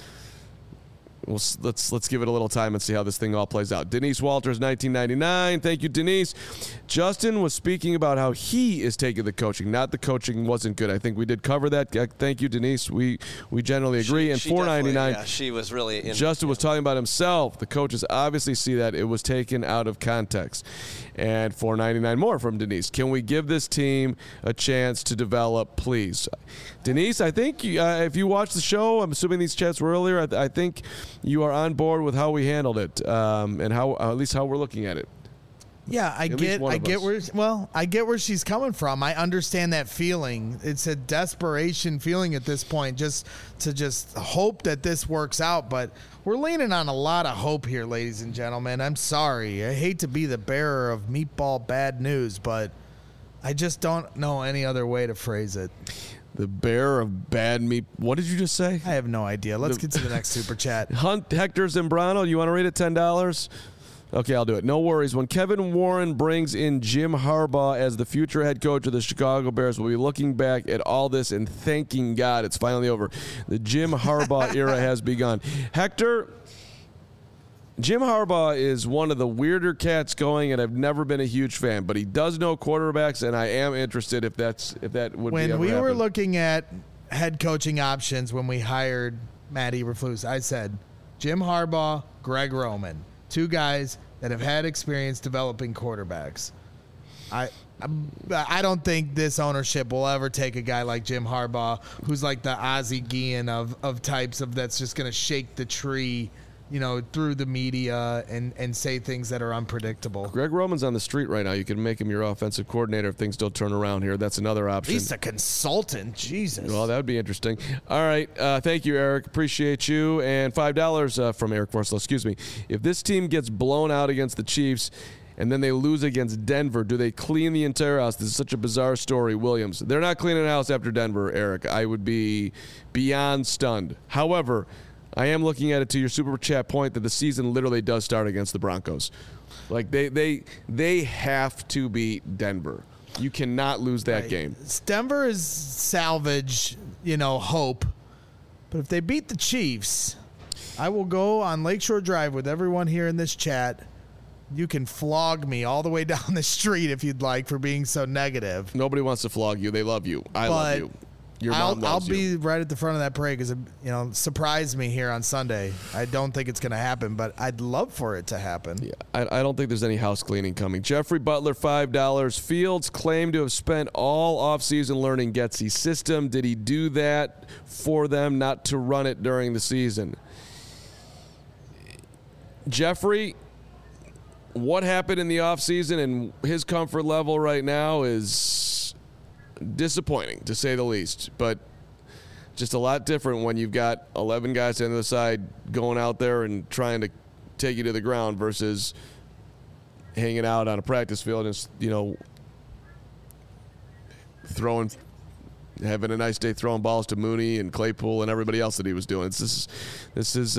let's give it a little time and see how this thing all plays out. Denise Walters, 1999. Thank you, Denise. Justin was speaking about how he is taking the coaching, not the coaching wasn't good. I think we did cover that. Thank you, Denise. We generally agree. And $4.99. Yeah, she was really. Justin was talking about himself. The coaches obviously see that it was taken out of context. And $4.99 more from Denise. Can we give this team a chance to develop, please? Denise, I think if you watched the show, I'm assuming these chats were earlier, I think you are on board with how we handled it, and how at least how we're looking at it. Yeah, I get where she's coming from. I understand that feeling. It's a desperation feeling at this point, just to hope that this works out. But we're leaning on a lot of hope here, ladies and gentlemen. I'm sorry. I hate to be the bearer of meatball bad news, but I just don't know any other way to phrase it. The bearer of bad meat. What did you just say? I have no idea. Let's get to the next super chat. Hunt Hector Zambrano, you want to rate it $10? Okay, I'll do it. No worries. When Kevin Warren brings in Jim Harbaugh as the future head coach of the Chicago Bears, we'll be looking back at all this and thanking God it's finally over. The Jim Harbaugh era has begun. Hector, Jim Harbaugh is one of the weirder cats going, and I've never been a huge fan, but he does know quarterbacks, and I am interested if that would be ever When we were happen. looking at head coaching options when we hired Matt Eberflus, I said Jim Harbaugh, Greg Roman. Two guys that have had experience developing quarterbacks. I don't think this ownership will ever take a guy like Jim Harbaugh, who's like the Ozzie Guillen of types of that's just going to shake the tree, through the media and say things that are unpredictable. Greg Roman's on the street right now. You can make him your offensive coordinator if things don't turn around here. That's another option. He's a consultant. Jesus. Well, that would be interesting. All right. Thank you, Eric. Appreciate you. And $5 from Eric Forsley. Excuse me. If this team gets blown out against the Chiefs and then they lose against Denver. Do they clean the entire house? This is such a bizarre story, Williams. They're not cleaning the house after Denver, Eric. I would be beyond stunned. However, I am looking at it to your super chat point that the season literally does start against the Broncos. Like they have to beat Denver. You cannot lose that game. Denver is salvage, hope. But if they beat the Chiefs, I will go on Lakeshore Drive with everyone here in this chat. You can flog me all the way down the street if you'd like for being so negative. Nobody wants to flog you. They love you. I love you. Your mom loves I'll you. be right at the front of that parade because, surprise me here on Sunday. I don't think it's going to happen, but I'd love for it to happen. Yeah, I don't think there's any house cleaning coming. Jeffrey Butler, $5. Fields claimed to have spent all offseason learning Getsy's system. Did he do that for them not to run it during the season? Jeffrey, what happened in the offseason and his comfort level right now is disappointing, to say the least, but just a lot different when you've got 11 guys on the other side going out there and trying to take you to the ground versus hanging out on a practice field and, having a nice day throwing balls to Mooney and Claypool and everybody else that he was doing. This is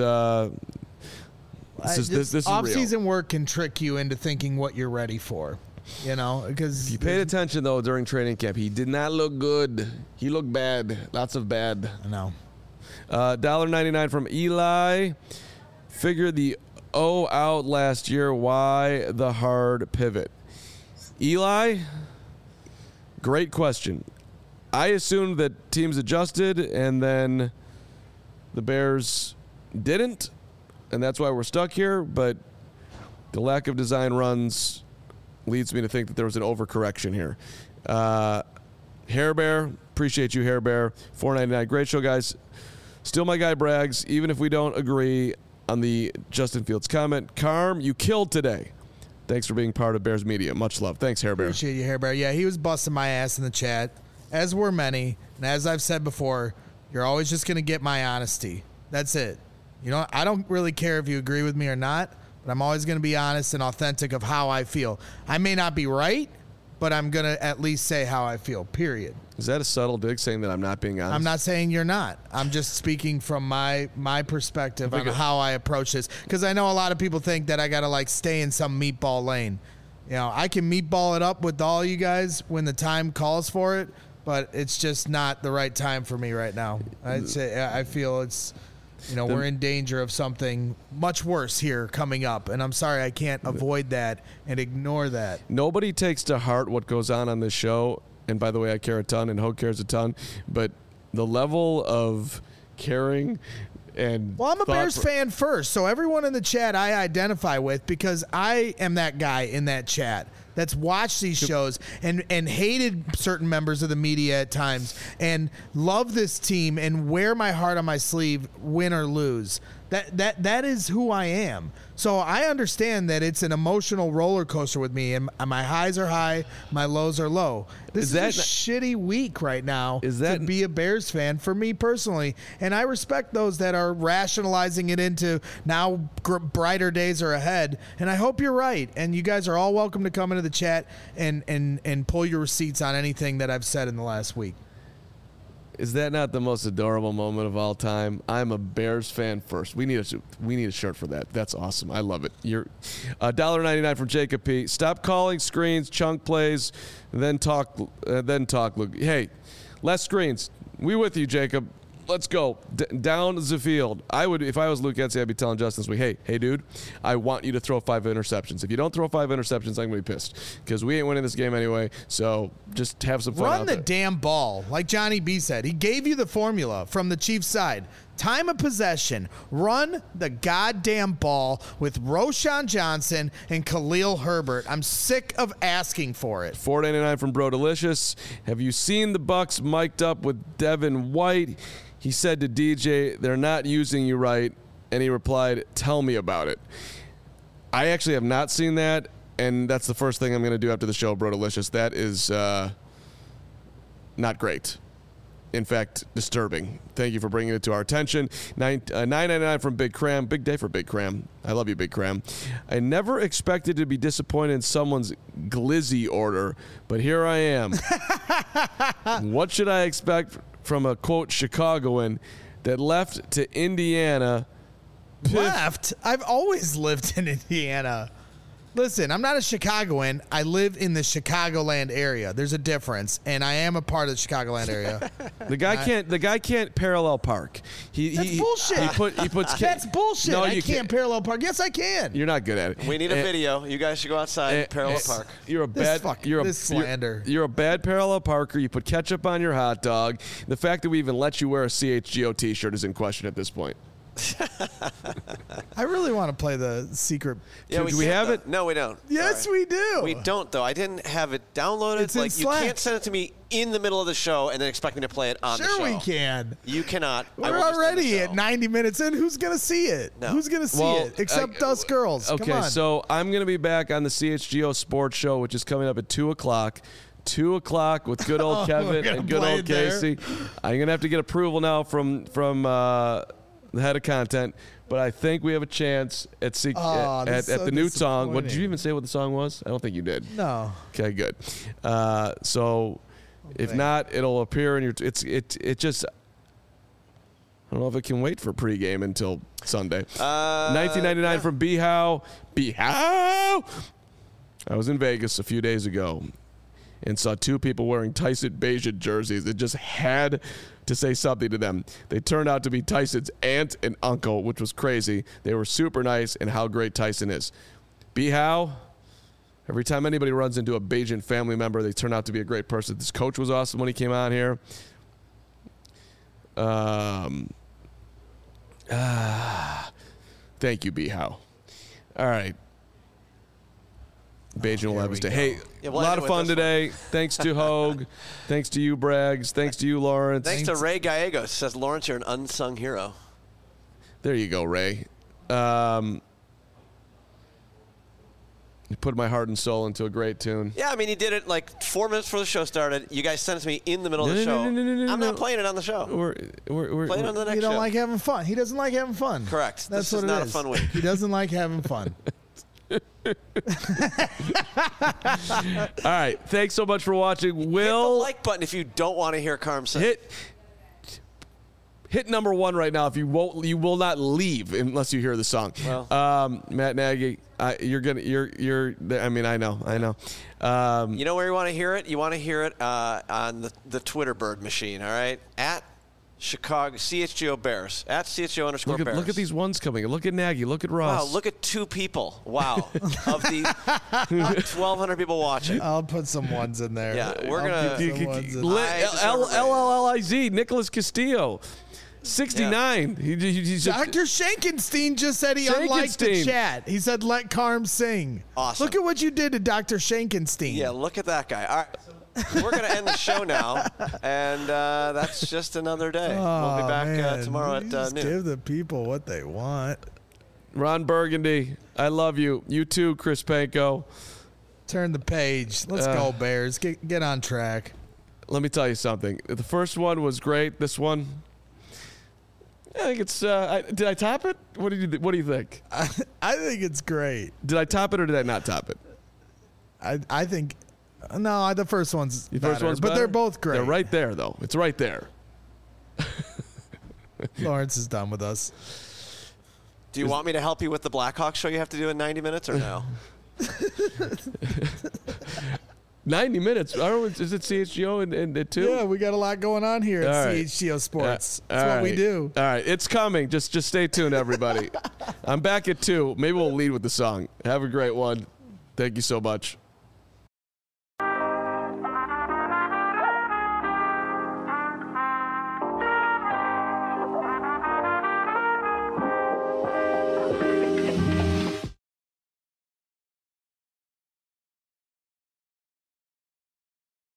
off-season work can trick you into thinking what you're ready for. Because if you paid attention though during training camp, he did not look good. He looked bad. Lots of bad. I know. $1.99 from Eli. Figure the O out last year. Why the hard pivot? Eli, great question. I assumed that teams adjusted and then the Bears didn't, and that's why we're stuck here. But the lack of design runs leads me to think that there was an overcorrection here. Hair Bear, appreciate you, Hair Bear. $4.99. Great show, guys. Still my guy brags, even if we don't agree on the Justin Fields comment. Carm, you killed today. Thanks for being part of Bears Media. Much love. Thanks, Hair Bear. Appreciate you, Hair Bear. Yeah, he was busting my ass in the chat, as were many. And as I've said before, you're always just going to get my honesty. That's it. I don't really care if you agree with me or not, but I'm always going to be honest and authentic of how I feel. I may not be right, but I'm going to at least say how I feel, period. Is that a subtle dig saying that I'm not being honest? I'm not saying you're not. I'm just speaking from my perspective on how I approach this. Because I know a lot of people think that I got to stay in some meatball lane. I can meatball it up with all you guys when the time calls for it, but it's just not the right time for me right now. I feel it's... we're in danger of something much worse here coming up, and I'm sorry I can't avoid that and ignore that. Nobody takes to heart what goes on this show, and by the way, I care a ton, and Hogue cares a ton, but the level of caring and... Well, I'm a Bears fan first, so everyone in the chat I identify with because I am that guy in that chat that's watched these shows and hated certain members of the media at times and love this team and wear my heart on my sleeve, win or lose. That is who I am. So I understand that it's an emotional roller coaster with me, and my highs are high, my lows are low. This is a shitty week right now to be a Bears fan for me personally, and I respect those that are rationalizing it into now brighter days are ahead, and I hope you're right, and you guys are all welcome to come into the chat and pull your receipts on anything that I've said in the last week. Is that not the most adorable moment of all time? I'm a Bears fan first. We need a shirt for that. That's awesome. I love it. You're $1.99 from Jacob P. Stop calling screens, chunk plays, then talk. Hey, less screens. We with you, Jacob. Let's go down the field. I would, if I was Luke Getsy, I'd be telling Justin this week, hey, dude, I want you to throw 5 interceptions. If you don't throw 5 interceptions, I'm gonna be pissed because we ain't winning this game anyway. So just have some fun. Run the damn ball, like Johnny B said. He gave you the formula from the Chiefs side. Time of possession. Run the goddamn ball with Roschon Johnson and Khalil Herbert. I'm sick of asking for it. $4.99 from Bro Delicious. Have you seen the Bucs mic'd up with Devin White? He said to DJ, they're not using you right, and he replied, tell me about it. I actually have not seen that, and that's the first thing I'm going to do after the show, Bro Delicious. That is not great. in fact, disturbing. Thank you for bringing it to our attention. $9.99 from Big Cram. Big day for Big Cram. I love you, Big Cram. I never expected to be disappointed in someone's glizzy order, but here I am. What should I expect from a, quote, Chicagoan that left to Indiana? Left? I've always lived in Indiana. Listen, I'm not a Chicagoan. I live in the Chicagoland area. There's a difference, and I am a part of the Chicagoland area. The guy can't parallel park. That's bullshit. He puts. That's bullshit. No, I you can't parallel park. Yes, I can. You're not good at it. We need a video. You guys should go outside and parallel park. You're a This slander. You're a bad parallel parker. You put ketchup on your hot dog. The fact that we even let you wear a CHGO T-shirt is in question at this point. I really want to play the secret. Yeah, do we have it? No, we don't. Yes, Sorry. we do. We don't, though. I didn't have it downloaded. It's in you Slack. can't send it to me in the middle of the show and then expect me to play it on the show. Sure, we can. You cannot. We're already at 90 minutes in. Who's going to see it? No. Who's going to see it? Except us girls. Okay, Come on. so I'm going to be back on the CHGO Sports Show, which is coming up at 2 o'clock. 2 o'clock with good old Kevin and good old Casey. I'm going to have to get approval now from the head of content. But I think we have a chance at the new song. What did you even say what the song was? I don't think you did. No. Okay, good. So if not, it'll appear in your. It just. I don't know if it can wait for pregame until Sunday. $19.99 from Behow. Behow. I was in Vegas a few days ago and saw two people wearing Tyson Bagent jerseys. It just had to say something to them. They turned out to be Tyson's aunt and uncle, which was crazy. They were super nice, and how great Tyson is. Behow, every time anybody runs into a Bagent family member, they turn out to be a great person. This coach was awesome when he came on here. Thank you, Behow. All right. Bagent will have his day. Hey, a lot of fun today. Thanks to Hogue. Thanks to you, Braggs. Thanks to you, Lawrence. Thanks to Ray Gallegos. Says, Lawrence, you're an unsung hero. There you go, Ray. You put my heart and soul into a great tune. Yeah, I mean, he did it like 4 minutes before the show started. You guys sent it to me in the middle of the show. I'm not playing it on the show. We're playing it on the next show. You don't like having fun. He doesn't like having fun. Correct. That's this what is not it is. a fun week. He doesn't like having fun. All right. Thanks so much for watching. Hit the like button if you don't want to hear Carm say. Hit number 1 right now. If you will not leave unless you hear the song. Well, Matt Nagy, you're. I mean, I know. You know where you want to hear it? You want to hear it on the Twitter bird machine. All right, at Chicago CHGO Bears at CHGO _Bears. Look at these ones coming. Look at Nagy. Look at Ross. Wow, look at 2 people. Wow, of the 1,200 people watching. I'll put some ones in there. Yeah, we're gonna LLIZ Nicholas Castillo. 69. Yeah. He's Dr. Shankenstein just said he unliked the chat. He said, let Carm sing. Awesome. Look at what you did to Dr. Shankenstein. Yeah, look at that guy. All right. We're going to end the show now, and that's just another day. We'll be back tomorrow at noon. Give the people what they want. Ron Burgundy, I love you. You too, Chris Panko. Turn the page. Let's go, Bears. Get on track. Let me tell you something. The first one was great. This one, I think it's. Did I top it? What do you think? I think it's great. Did I top it or did I not top it? I think. No, the first one's better, but they're both great. They're right there, though. It's right there. Lawrence is done with us. Do you want me to help you with the Blackhawks show you have to do in 90 minutes or no? 90 minutes. Is it CHGO and 2? Yeah, we got a lot going on here at CHGO Sports. That's what we do. All right, it's coming. Just stay tuned, everybody. I'm back at 2. Maybe we'll lead with the song. Have a great one. Thank you so much.